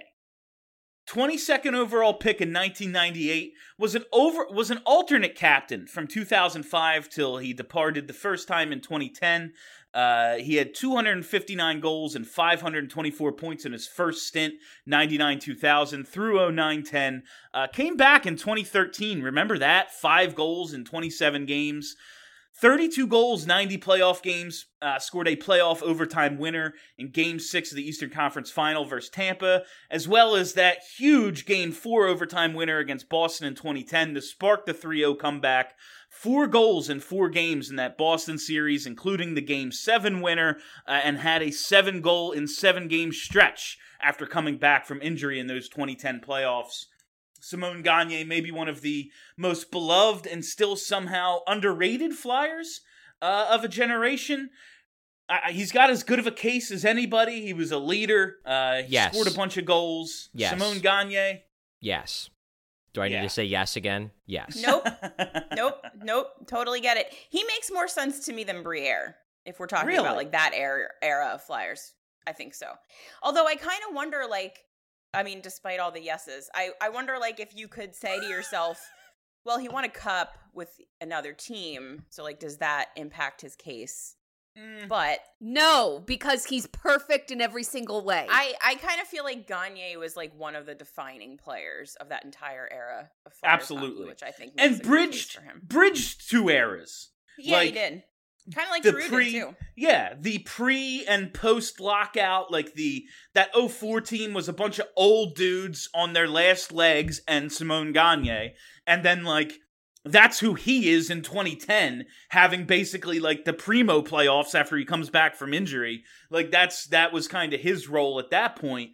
22nd overall pick in 1998, was an alternate captain from 2005 till he departed the first time in 2010. He had 259 goals and 524 points in his first stint, 99-2000 through 09-10. Came back in 2013. Remember that? 5 goals in 27 games. 32 goals, 90 playoff games, scored a playoff overtime winner in Game 6 of the Eastern Conference Final versus Tampa, as well as that huge Game 4 overtime winner against Boston in 2010 to spark the 3-0 comeback. 4 goals in 4 games in that Boston series, including the Game 7 winner, and had a 7-goal in 7-game stretch after coming back from injury in those 2010 playoffs. Simone Gagne may be one of the most beloved and still somehow underrated Flyers of a generation. He's got as good of a case as anybody. He was a leader. He scored a bunch of goals. Yes. Simone Gagne. Yes. Do I need to say yes again? Yes. Nope. Totally get it. He makes more sense to me than Briere, if we're talking about like that era of Flyers. I think so. Although I kind of wonder, like, I mean, despite all the yeses, I wonder, like, if you could say to yourself, well, he won a cup with another team, so, like, does that impact his case? But no, because he's perfect in every single way. I kind of feel like Gagne was, like, one of the defining players of that entire era of Flyers absolutely hockey, which I think makes and bridged 2 eras. Yeah, like, he did. Kind of like Drew did, too. Yeah, the pre and post lockout, like that 04 team was a bunch of old dudes on their last legs and Simone Gagne, and then like that's who he is in 2010, having basically like the primo playoffs after he comes back from injury. Like that was kind of his role at that point.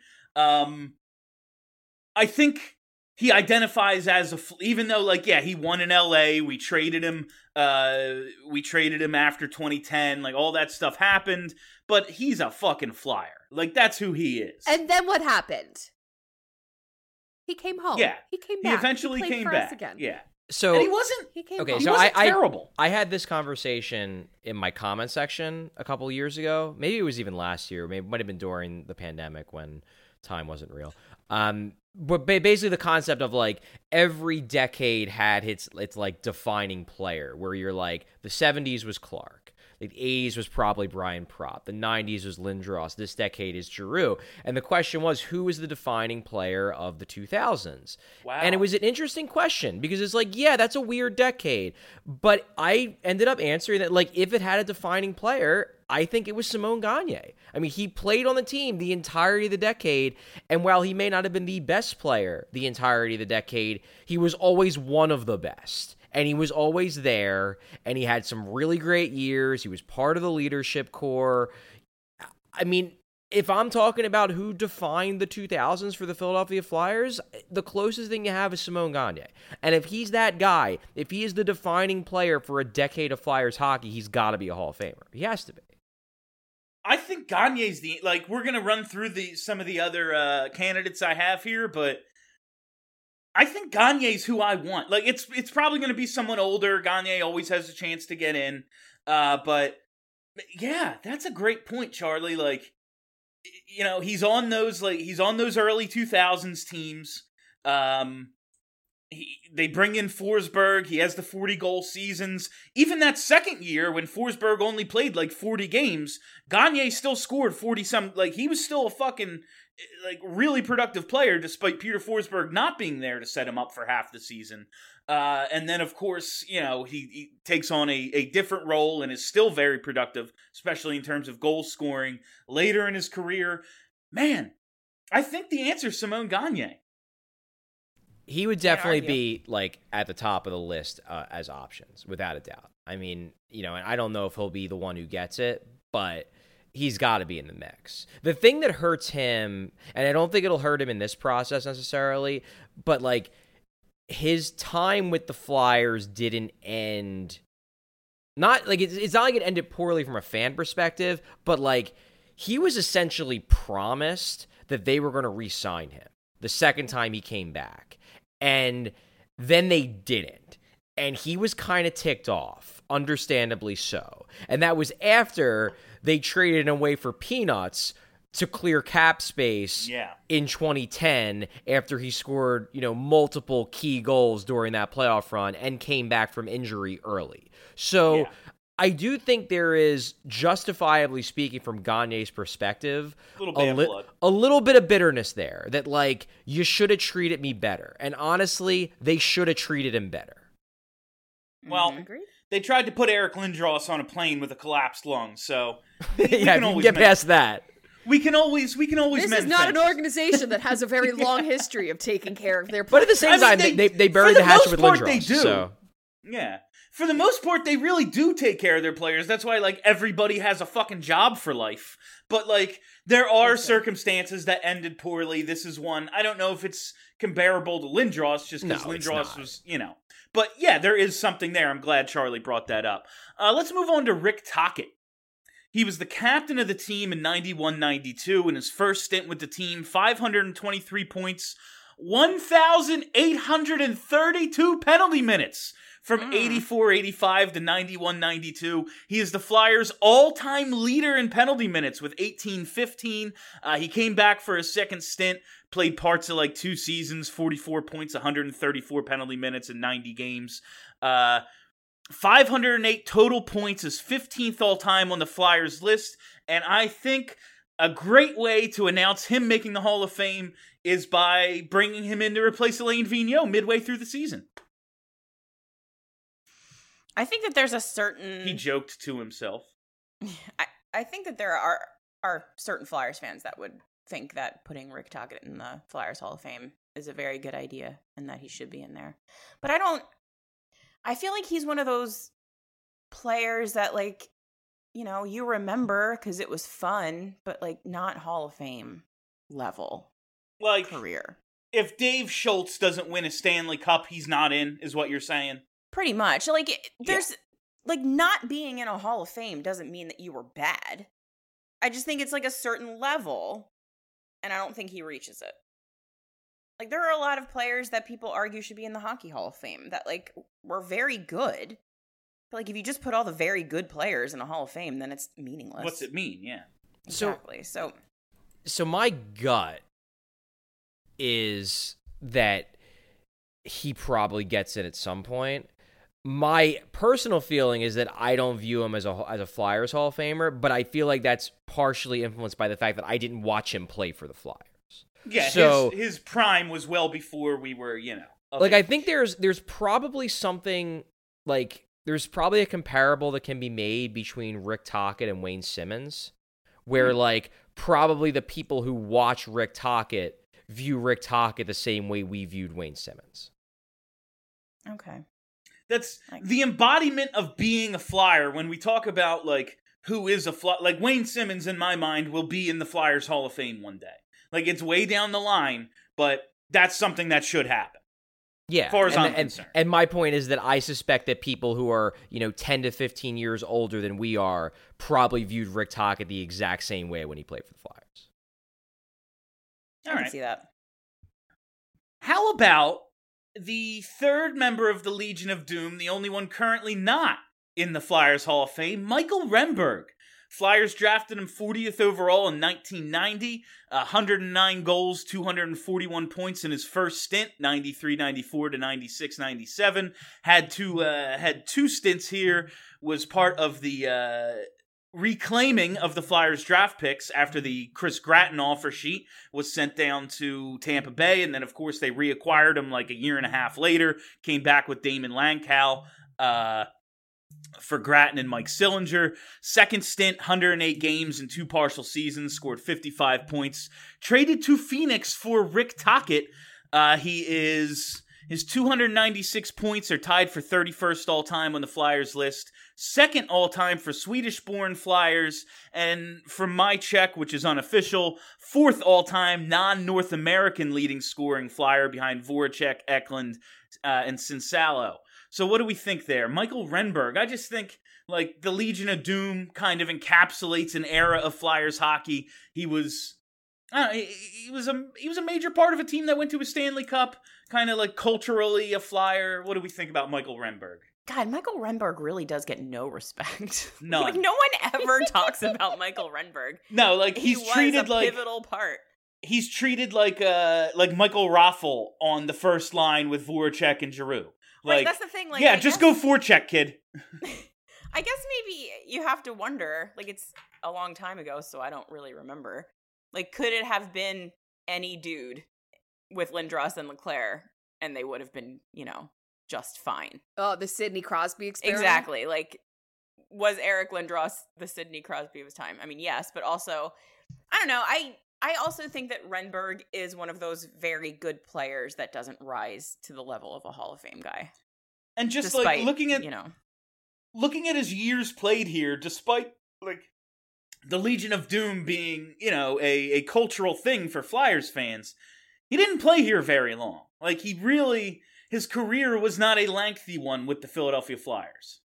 I think he identifies as even though, like, yeah, he won in LA. We traded him after 2010. Like, all that stuff happened. But he's a fucking Flyer. Like, that's who he is. And then what happened? He came home. Yeah. He came back. He eventually came back. Again. Yeah. So and he wasn't. He came okay. home. So he wasn't terrible. I had this conversation in my comment section a couple years ago. Maybe it was even last year. Maybe it might have been during the pandemic when time wasn't real. but basically the concept of like every decade had its like defining player, where you're like the 70s was Clark, the 80s was probably Brian Propp, the 90s was Lindros, this decade is Giroux, and the question was, who is the defining player of the 2000s? Wow. And it was an interesting question because it's like, yeah, that's a weird decade, but I ended up answering that like if it had a defining player, I think it was Simone Gagne. I mean, he played on the team the entirety of the decade, and while he may not have been the best player the entirety of the decade, he was always one of the best. And he was always there, and he had some really great years. He was part of the leadership core. I mean, if I'm talking about who defined the 2000s for the Philadelphia Flyers, the closest thing you have is Simone Gagne. And if he's that guy, if he is the defining player for a decade of Flyers hockey, he's got to be a Hall of Famer. He has to be. I think Gagne's we're going to run through some of the other candidates I have here, but I think Gagne's who I want. Like, it's probably going to be someone older. Gagne always has a chance to get in. But yeah, that's a great point, Charlie. Like, you know, he's on those early 2000s teams. They bring in Forsberg. He has the 40-goal seasons. Even that second year when Forsberg only played like 40 games, Gagne still scored 40-some. Like, he was still a fucking really productive player despite Peter Forsberg not being there to set him up for half the season. And then, of course, you know, he takes on a different role and is still very productive, especially in terms of goal scoring later in his career. Man, I think the answer is Simone Gagne. He would definitely be like at the top of the list as options, without a doubt. I mean, you know, and I don't know if he'll be the one who gets it, but he's got to be in the mix. The thing that hurts him, and I don't think it'll hurt him in this process necessarily, but like his time with the Flyers didn't end. Not like it's not like it ended poorly from a fan perspective, but like he was essentially promised that they were going to re-sign him the second time he came back. And then they didn't. And he was kind of ticked off, understandably so. And that was after they traded him away for peanuts to clear cap space in 2010 after he scored, you know, multiple key goals during that playoff run and came back from injury early. So I do think there is, justifiably speaking from Gagne's perspective, a little bit of bitterness there that, like, you should have treated me better. And honestly, they should have treated him better. Well, they tried to put Eric Lindros on a plane with a collapsed lung, so we can always get past that. We can always This is not an organization that has a very long history of taking care of their players. But at the same time, they buried the hatchet with Lindros. They do. So. Yeah. For the most part, they really do take care of their players. That's why, like, everybody has a fucking job for life. But, like, there are circumstances that ended poorly. This is one. I don't know if it's comparable to Lindros, just because Lindros was, you know. But, yeah, there is something there. I'm glad Charlie brought that up. Let's move on to Rick Tocchet. He was the captain of the team in 91-92. In his first stint with the team, 523 points, 1,832 penalty minutes. From 84-85 to 91-92, he is the Flyers' all-time leader in penalty minutes with 18-15. He came back for a second stint, played parts of like 2 seasons, 44 points, 134 penalty minutes in 90 games. 508 total points, is 15th all-time on the Flyers list, and I think a great way to announce him making the Hall of Fame is by bringing him in to replace Alain Vigneault midway through the season. I think that there's a certain... He joked to himself. I think that there are certain Flyers fans that would think that putting Rick Tocchet in the Flyers Hall of Fame is a very good idea and that he should be in there. But I feel like he's one of those players that, like, you know, you remember because it was fun, but, like, not Hall of Fame level career. If Dave Schultz doesn't win a Stanley Cup, he's not in, is what you're saying? Pretty much. Like, there's, like, not being in a Hall of Fame doesn't mean that you were bad. I just think it's, like, a certain level, and I don't think he reaches it. Like, there are a lot of players that people argue should be in the Hockey Hall of Fame that, like, were very good. But, like, if you just put all the very good players in a Hall of Fame, then it's meaningless. What's it mean? Yeah. Exactly. So my gut is that he probably gets it at some point. My personal feeling is that I don't view him as a Flyers Hall of Famer, but I feel like that's partially influenced by the fact that I didn't watch him play for the Flyers. Yeah, so, his prime was well before we were, like, I think there's probably something, like, there's probably a comparable that can be made between Rick Tocchet and Wayne Simmons, where, like, probably the people who watch Rick Tocchet view Rick Tocchet the same way we viewed Wayne Simmons. Okay. That's the embodiment of being a Flyer. When we talk about, like, who is a Flyer, like, Wayne Simmons, in my mind, will be in the Flyers Hall of Fame one day. Like, it's way down the line, but that's something that should happen. Yeah. As far as I'm concerned. And my point is that I suspect that people who are, 10 to 15 years older than we are probably viewed Rick Tocchet the exact same way when he played for the Flyers. I can see that. How about the third member of the Legion of Doom, the only one currently not in the Flyers Hall of Fame, Michael Renberg. Flyers drafted him 40th overall in 1990, 109 goals, 241 points in his first stint, 93-94 to 96-97. Had two stints here, was part of the reclaiming of the Flyers draft picks after the Chris Gratton offer sheet was sent down to Tampa Bay, and then of course they reacquired him like a year and a half later, came back with Damon Langkow for Gratton and Mike Sillinger. Second stint, 108 games in 2 partial seasons, scored 55 points. Traded to Phoenix for Rick Tocchet. His 296 points are tied for 31st all-time on the Flyers list, second all-time for Swedish-born Flyers, and from my check, which is unofficial, 4th all-time non-North American leading scoring Flyer behind Voracek, Eklund, and Cinsalo. So what do we think there? Michael Renberg, I just think, like, the Legion of Doom kind of encapsulates an era of Flyers hockey. He was a major part of a team that went to a Stanley Cup, kind of like culturally a Flyer. What do we think about Michael Renberg? God, Michael Renberg really does get no respect. None. Like, no one ever talks about Michael Renberg. No, like, he's treated like pivotal part. He's treated like Michael Raffel on the first line with Voracek and Giroux. Like, right, that's the thing. Like, yeah, just go forecheck, kid. I guess maybe you have to wonder. Like, it's a long time ago, so I don't really remember. Like, could it have been any dude with Lindros and Leclerc, and they would have been, just fine? Oh, the Sidney Crosby experiment? Exactly. Like, was Eric Lindros the Sidney Crosby of his time? I mean, yes, but also, I don't know. I also think that Renberg is one of those very good players that doesn't rise to the level of a Hall of Fame guy. And just despite, like looking at his years played here, despite like the Legion of Doom being, a cultural thing for Flyers fans, he didn't play here very long. Like, his career was not a lengthy one with the Philadelphia Flyers.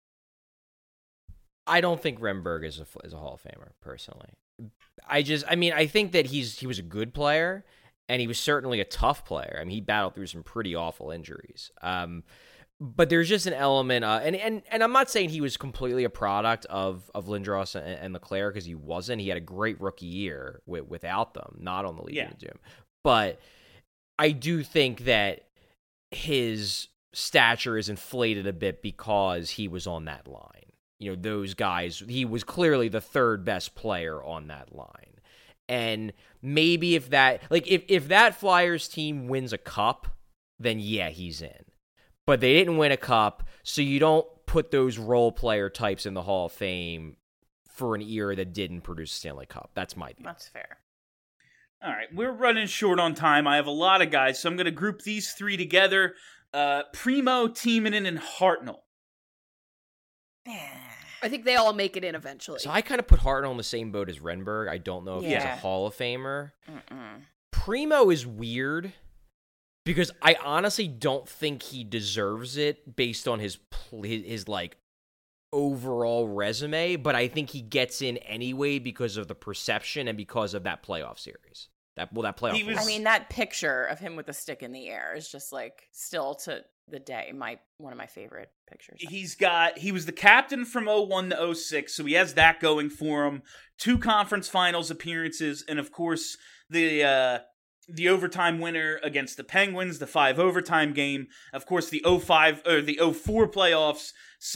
I don't think Renberg is a Hall of Famer, personally. I think that he was a good player, and he was certainly a tough player. I mean, he battled through some pretty awful injuries. But there's just an element, and I'm not saying he was completely a product of Lindros and Leclerc, because he wasn't. He had a great rookie year without them, not on the Legion of Doom. But I do think that his stature is inflated a bit because he was on that line. Those guys, he was clearly the third best player on that line. And maybe if that Flyers team wins a cup, then yeah, he's in. But they didn't win a cup, so you don't put those role player types in the Hall of Fame for an era that didn't produce a Stanley Cup. That's my view. That's fair. All right, we're running short on time. I have a lot of guys, so I'm going to group these three together. Primo, Timonen, and Hartnell. I think they all make it in eventually. So I kind of put Hartnell in the same boat as Renberg. I don't know if he's a Hall of Famer. Primo is weird because I honestly don't think he deserves it based on his like overall resume, but I think he gets in anyway because of the perception and because of that playoff series. That playoff. I mean, that picture of him with the stick in the air is just like still to the day one of my favorite pictures. He was the captain from 01 to 06, so he has that going for him. 2 conference finals appearances, and of course the the overtime winner against the Penguins, the 5 overtime game. Of course, the 04 playoffs,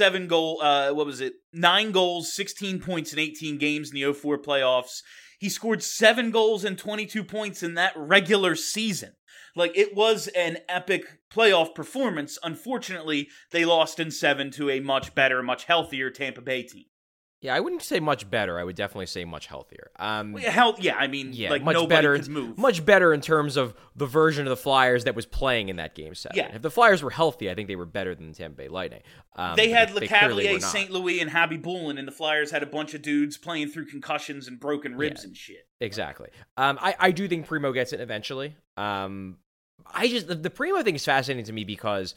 9 goals, 16 points in 18 games in the 04 playoffs. He scored 7 goals and 22 points in that regular season. Like, it was an epic playoff performance. Unfortunately, they lost in 7 to a much better, much healthier Tampa Bay team. Yeah, I wouldn't say much better. I would definitely say much healthier. Like, much nobody better, could move. Much better in terms of the version of the Flyers that was playing in that Game 7. Yeah. If the Flyers were healthy, I think they were better than the Tampa Bay Lightning. They had clearly were LeCavalier, not. St. Louis, and Habby Boulin, and the Flyers had a bunch of dudes playing through concussions and broken ribs and shit. Exactly. I do think Primo gets it eventually. The Primo thing is fascinating to me because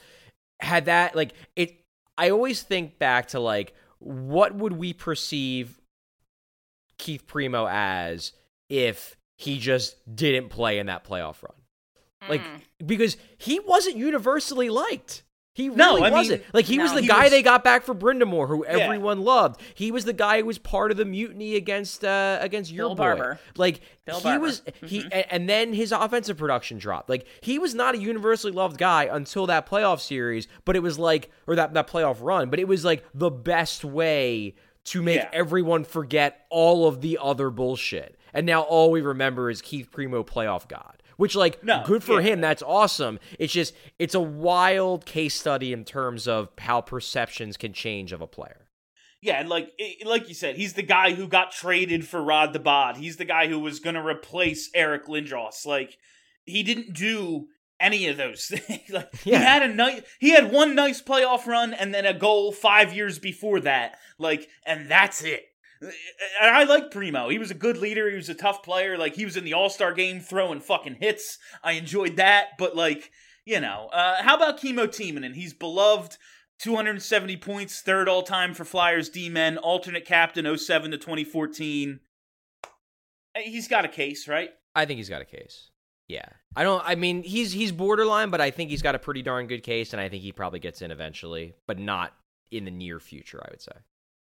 I always think back to what would we perceive Keith Primo as if he just didn't play in that playoff run? Because he wasn't universally liked. He really wasn't. He was the guy they got back for Brindamore, who everyone loved. He was the guy who was part of the mutiny against your boy. Barber. Bill Barber. And then his offensive production dropped. He was not a universally loved guy until that playoff series, but it was that playoff run, but it was the best way to make everyone forget all of the other bullshit. And now all we remember is Keith Primo, playoff god. Which, good for him. That's awesome. It's a wild case study in terms of how perceptions can change of a player. Yeah, and like you said, he's the guy who got traded for Rod the Bod. He's the guy who was going to replace Eric Lindros. He didn't do any of those things. He had one nice playoff run and then a goal 5 years before that. And that's it. And I like Primo. He was a good leader. He was a tough player. He was in the All-Star game throwing fucking hits. I enjoyed that. But, how about Kimmo Timonen? He's beloved, 270 points, third all-time for Flyers D-men, alternate captain 07 to 2014. He's got a case, right? I think he's got a case. Yeah. He's borderline, but I think he's got a pretty darn good case, and I think he probably gets in eventually, but not in the near future, I would say.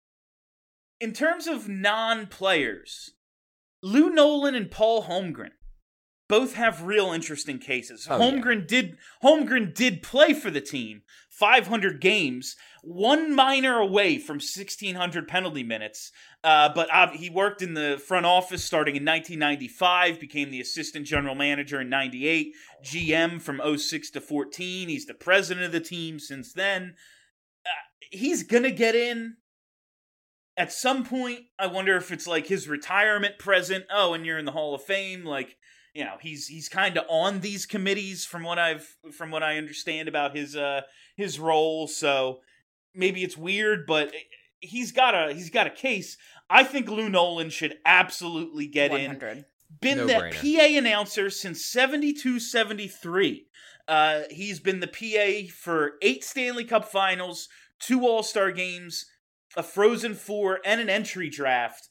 In terms of non-players, Lou Nolan and Paul Holmgren both have real interesting cases. Holmgren did play for the team, 500 games, one minor away from 1,600 penalty minutes, but he worked in the front office starting in 1995, became the assistant general manager in 98, GM from 06 to 14. He's the president of the team since then. He's gonna get in. At some point, I wonder if it's his retirement present. Oh, and you're in the Hall of Fame. He's kind of on these committees from what I understand about his role. So maybe it's weird, but he's got a case. I think Lou Nolan should absolutely get 100. in. Been the PA announcer since 72-73. He's been the PA for 8 Stanley Cup Finals, 2 All-Star games, a Frozen Four, and an entry draft.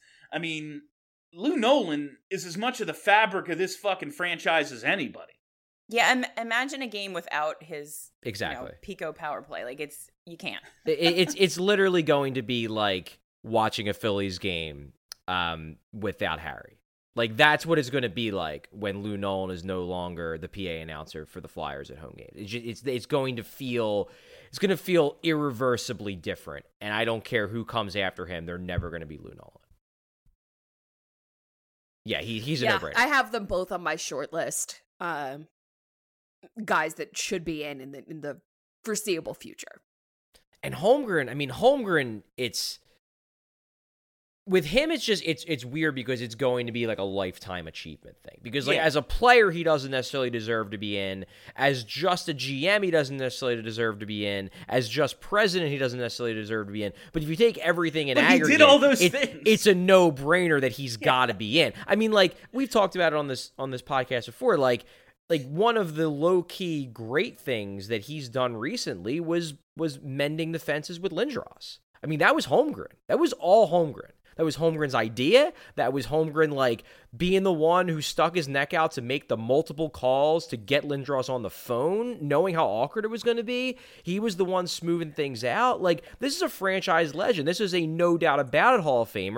Lou Nolan is as much of the fabric of this fucking franchise as anybody. Yeah, imagine a game without his Pico power play. You can't. It's literally going to be like watching a Phillies game without Harry. That's what it's going to be like when Lou Nolan is no longer the PA announcer for the Flyers at home games. It's going to feel irreversibly different, and I don't care who comes after him. They're never going to be Lou Nolan. Yeah, he's a no-brainer. I have them both on my short list. Guys that should be in the foreseeable future. And Holmgren, with him, it's weird because it's going to be a lifetime achievement thing. Because as a player, he doesn't necessarily deserve to be in. As just a GM, he doesn't necessarily deserve to be in. As just president, he doesn't necessarily deserve to be in. But if you take everything in aggregate, he did all those things. It's a no-brainer that he's got to be in. We've talked about it on this podcast before. One of the low-key great things that he's done recently was mending the fences with Lindros. That was Holmgren. That was all Holmgren. That was Holmgren's idea. That was Holmgren, being the one who stuck his neck out to make the multiple calls to get Lindros on the phone, knowing how awkward it was going to be. He was the one smoothing things out. This is a franchise legend. This is a no doubt about it Hall of Famer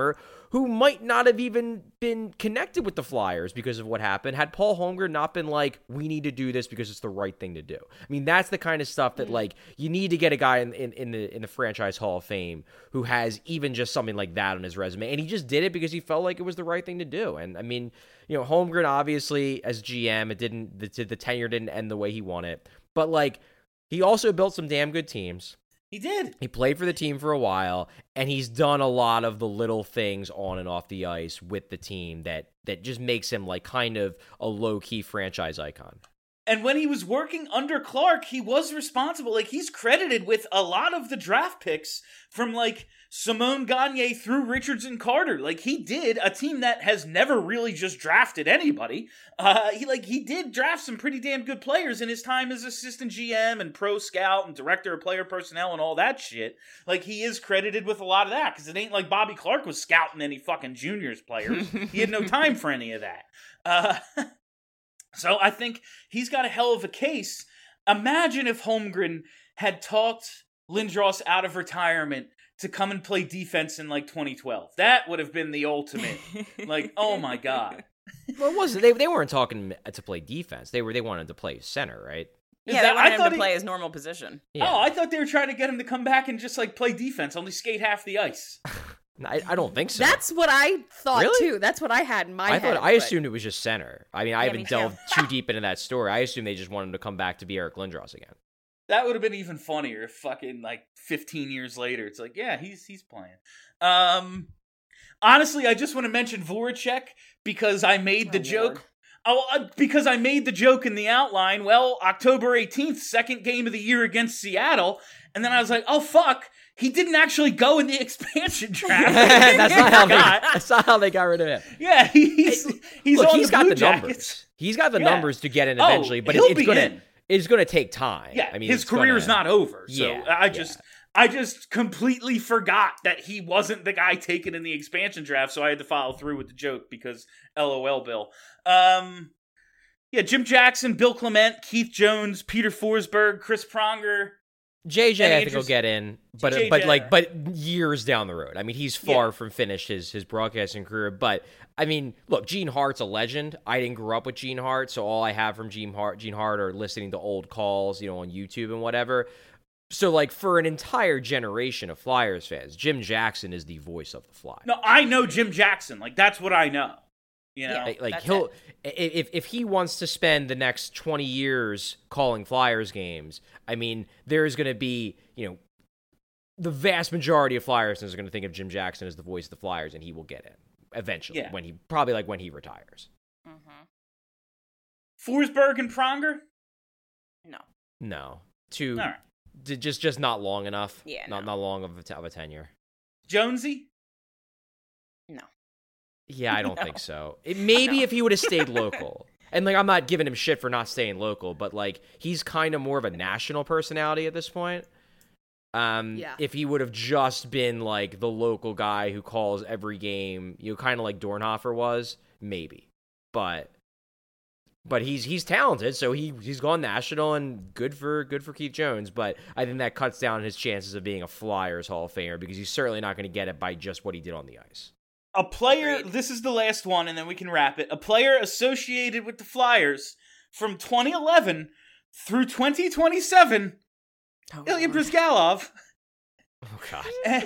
who might not have even been connected with the Flyers because of what happened had Paul Holmgren not been like, we need to do this because it's the right thing to do. I mean, that's the kind of stuff that like you need to get a guy in the franchise Hall of Fame who has even just something like that on his resume, and he just did it because he felt like it was the right thing to do. And I mean, you know, Holmgren obviously as GM, the tenure didn't end the way he wanted, but like he also built some damn good teams. He did. He played for the team for a while, and he's done a lot of the little things on and off the ice with the team that just makes him like kind of a low-key franchise icon. And when he was working under Clark, he was responsible. Like, he's credited with a lot of the draft picks from, like, Simone Gagne through Richards and Carter. Like, he did a team that has never really just drafted anybody. He did draft some pretty damn good players in his time as assistant GM and pro scout and director of player personnel and all that shit. Like, he is credited with a lot of that, because it ain't like Bobby Clark was scouting any fucking juniors players. He had no time for any of that. So I think he's got a hell of a case. Imagine if Holmgren had talked Lindros out of retirement to come and play defense in like 2012. That would have been the ultimate. Like, oh my God. Well, it wasn't. They weren't talking to play defense. They wanted to play center, right? Yeah, they wanted him to play his normal position. Yeah. Oh, I thought they were trying to get him to come back and just like play defense, only skate half the ice. I don't think so. That's what I thought Really? too. That's what I had in my head. I assumed it was just center. I mean, I Yeah, haven't me too. delved too deep into that story. I assumed they just wanted him to come back to be Eric Lindros again. That would have been even funnier if fucking like 15 years later, it's like, yeah, he's playing. Honestly, I just want to mention Voracek because I made the joke. Because I made the joke in the outline. Well, October 18th, second game of the year against Seattle. And then I was like, oh, fuck. He didn't actually go in the expansion draft. That's not how they got rid of him. Yeah, he's Look, on he's the got Blue the Jackets. numbers. He's got the Yeah. numbers to get in eventually, but he'll it's be gonna in. it's gonna take time. Yeah, I mean, his it's career's gonna- not over. So Yeah, I just completely forgot that he wasn't the guy taken in the expansion draft, so I had to follow through with the joke because LOL Bill. Yeah, Jim Jackson, Bill Clement, Keith Jones, Peter Forsberg, Chris Pronger. JJ, And I think will get in, but years down the road. I mean, he's far from finished his broadcasting career. But I mean, look, Gene Hart's a legend. I didn't grow up with Gene Hart, so all I have from Gene Hart are listening to old calls, on YouTube and whatever. So, like, for an entire generation of Flyers fans, Jim Jackson is the voice of the Flyers. No, I know Jim Jackson. Like, that's what I know. Like he'll if he wants to spend the next 20 years calling Flyers games, I mean, there's going to be, the vast majority of Flyers fans are going to think of Jim Jackson as the voice of the Flyers, and he will get in eventually when he retires. Mm-hmm. Forsberg and Pronger? No, All right. just not long enough. Yeah, not long of a tenure. Jonesy? No. Yeah, I don't think so. Maybe if he would have stayed local. And, like, I'm not giving him shit for not staying local, but, like, he's kind of more of a national personality at this point. If he would have just been, like, the local guy who calls every game, kind of like Dornhofer was, maybe. But he's talented, so he's gone national, and good for Keith Jones. But I think that cuts down his chances of being a Flyers Hall of Famer, because he's certainly not going to get it by just what he did on the ice. A player, this is the last one, and then we can wrap it. A player associated with the Flyers from 2011 through 2027, Ilya Bryzgalov. Oh, God.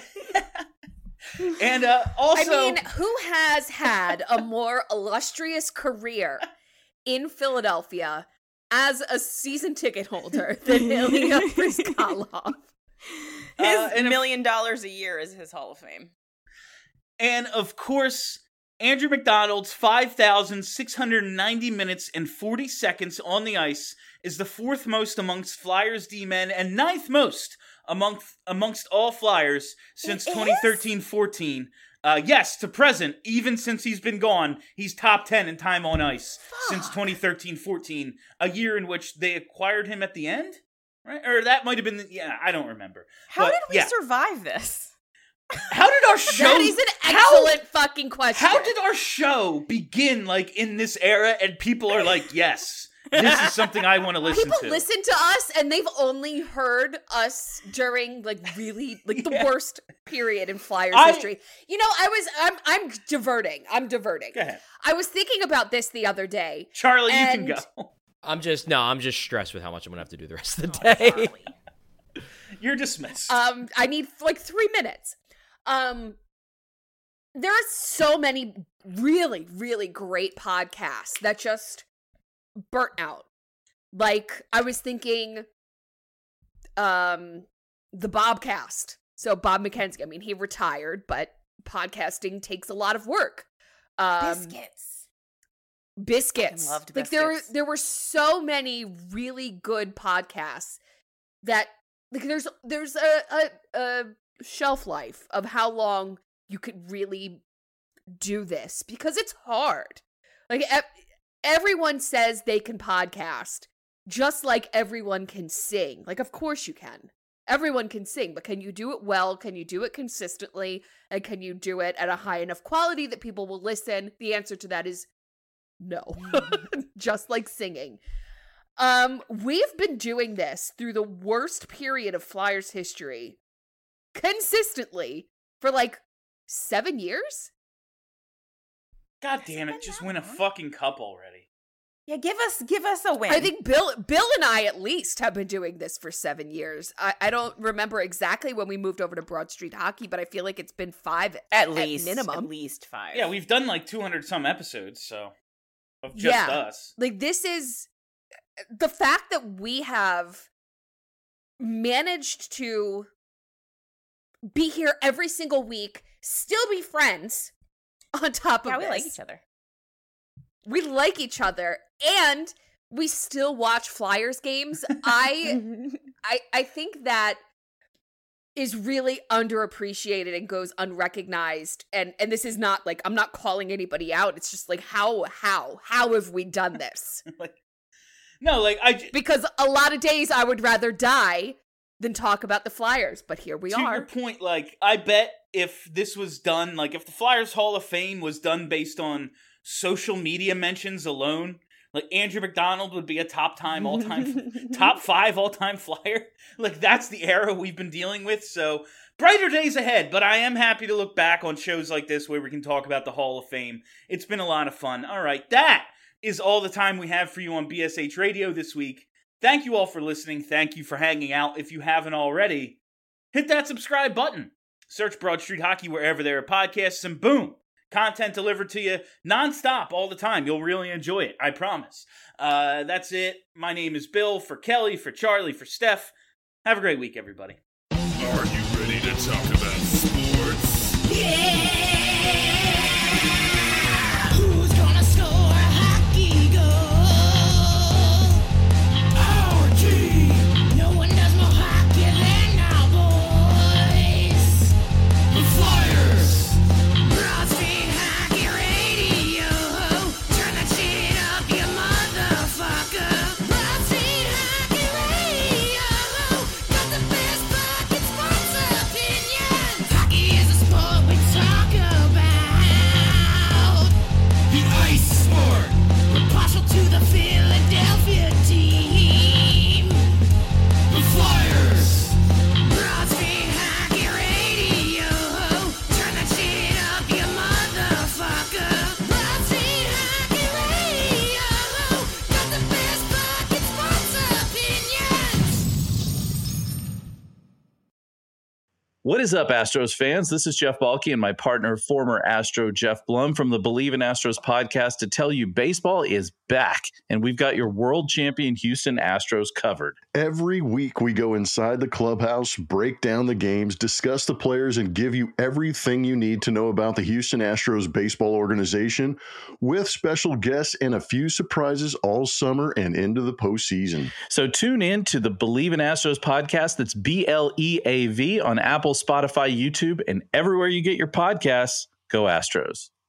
And also... I mean, who has had a more illustrious career in Philadelphia as a season ticket holder than Ilya Bryzgalov? His and $1 million a year is his Hall of Fame. And, of course, Andrew McDonald's 5,690 minutes and 40 seconds on the ice is the fourth most amongst Flyers D-men and ninth most amongst all Flyers since 2013-14. Yes, to present, even since he's been gone, he's top 10 in time on ice since 2013-14, a year in which they acquired him at the end? Right? Or that might have been, I don't remember. How did we survive this? How did our show... That is an excellent fucking question. How did our show begin, like, in this era, and people are like, yes, This is something I want to listen People to. listen to us, and they've only heard us during like really like the worst period in Flyers history. You know, I'm diverting. Go ahead. I was thinking about this the other day. Charlie, you can go. I'm just stressed with how much I'm gonna have to do the rest of the day. You're dismissed. I need like 3 minutes. There are so many really, really great podcasts that just burnt out. Like, I was thinking, the Bobcast. So Bob McKenzie, I mean, he retired, but podcasting takes a lot of work. Biscuits. I loved Like, Biscuits. there were so many really good podcasts that, like, there's a shelf life of how long you could really do this, because it's hard. Like, everyone says they can podcast, just like everyone can sing. Like, of course you can. Everyone can sing, but can you do it well? Can you do it consistently? And can you do it at a high enough quality that people will listen? The answer to that is no. Just like singing. We've been doing this through the worst period of Flyers history consistently for like 7 years? God damn it, just win a fucking cup already. Yeah, give us a win. I think Bill and I at least have been doing this for 7 years. I don't remember exactly when we moved over to Broad Street Hockey, but I feel like it's been 5 at least minimum. At least 5. Yeah, we've done like 200 some episodes, so of just us. Like, this is the fact that we have managed to be here every single week, still be friends on top of Yeah, this. we like each other. We like each other, and we still watch Flyers games. I think that is really underappreciated and goes unrecognized. And this is not like, I'm not calling anybody out. It's just like, how have we done this? Because a lot of days I would rather die than talk about the Flyers, but here we are. To your point, like, I bet if this was done, like, if the Flyers Hall of Fame was done based on social media mentions alone, like, Andrew McDonald would be a top 5 all-time Flyer. Like, that's the era we've been dealing with, so brighter days ahead, but I am happy to look back on shows like this where we can talk about the Hall of Fame. It's been a lot of fun. All right, that is all the time we have for you on BSH Radio this week. Thank you all for listening. Thank you for hanging out. If you haven't already, hit that subscribe button. Search Broad Street Hockey wherever there are podcasts, and boom, content delivered to you nonstop all the time. You'll really enjoy it, I promise. That's it. My name is Bill, for Kelly, for Charlie, for Steph. Have a great week, everybody. Are you ready to talk about sports? Who's gonna score a hockey goal? Our team. No one does more hockey than our boys. The Flyers. Broad Street Hockey Radio. Turn that shit up, you motherfucker. Broad Street Hockey Radio. Got the best fucking sports opinions. Hockey is a sport we talk about. The ice sport. We're partial to the Philadelphia team. The Flyers. Broad Street Hockey Radio. Turn that shit up, you motherfucker. Broad Street Hockey Radio. Got the best fucking sports opinions. What is up, Astros fans? This is Jeff Balke and my partner, former Astro Jeff Blum from the Believe in Astros podcast to tell you baseball is back, and we've got your world champion Houston Astros covered. Every week we go inside the clubhouse, break down the games, discuss the players, and give you everything you need to know about the Houston Astros baseball organization, with special guests and a few surprises all summer and into the postseason. So tune in to the Believe in Astros podcast. That's BLEAV on Apple, Spotify, YouTube, and everywhere you get your podcasts. Go Astros.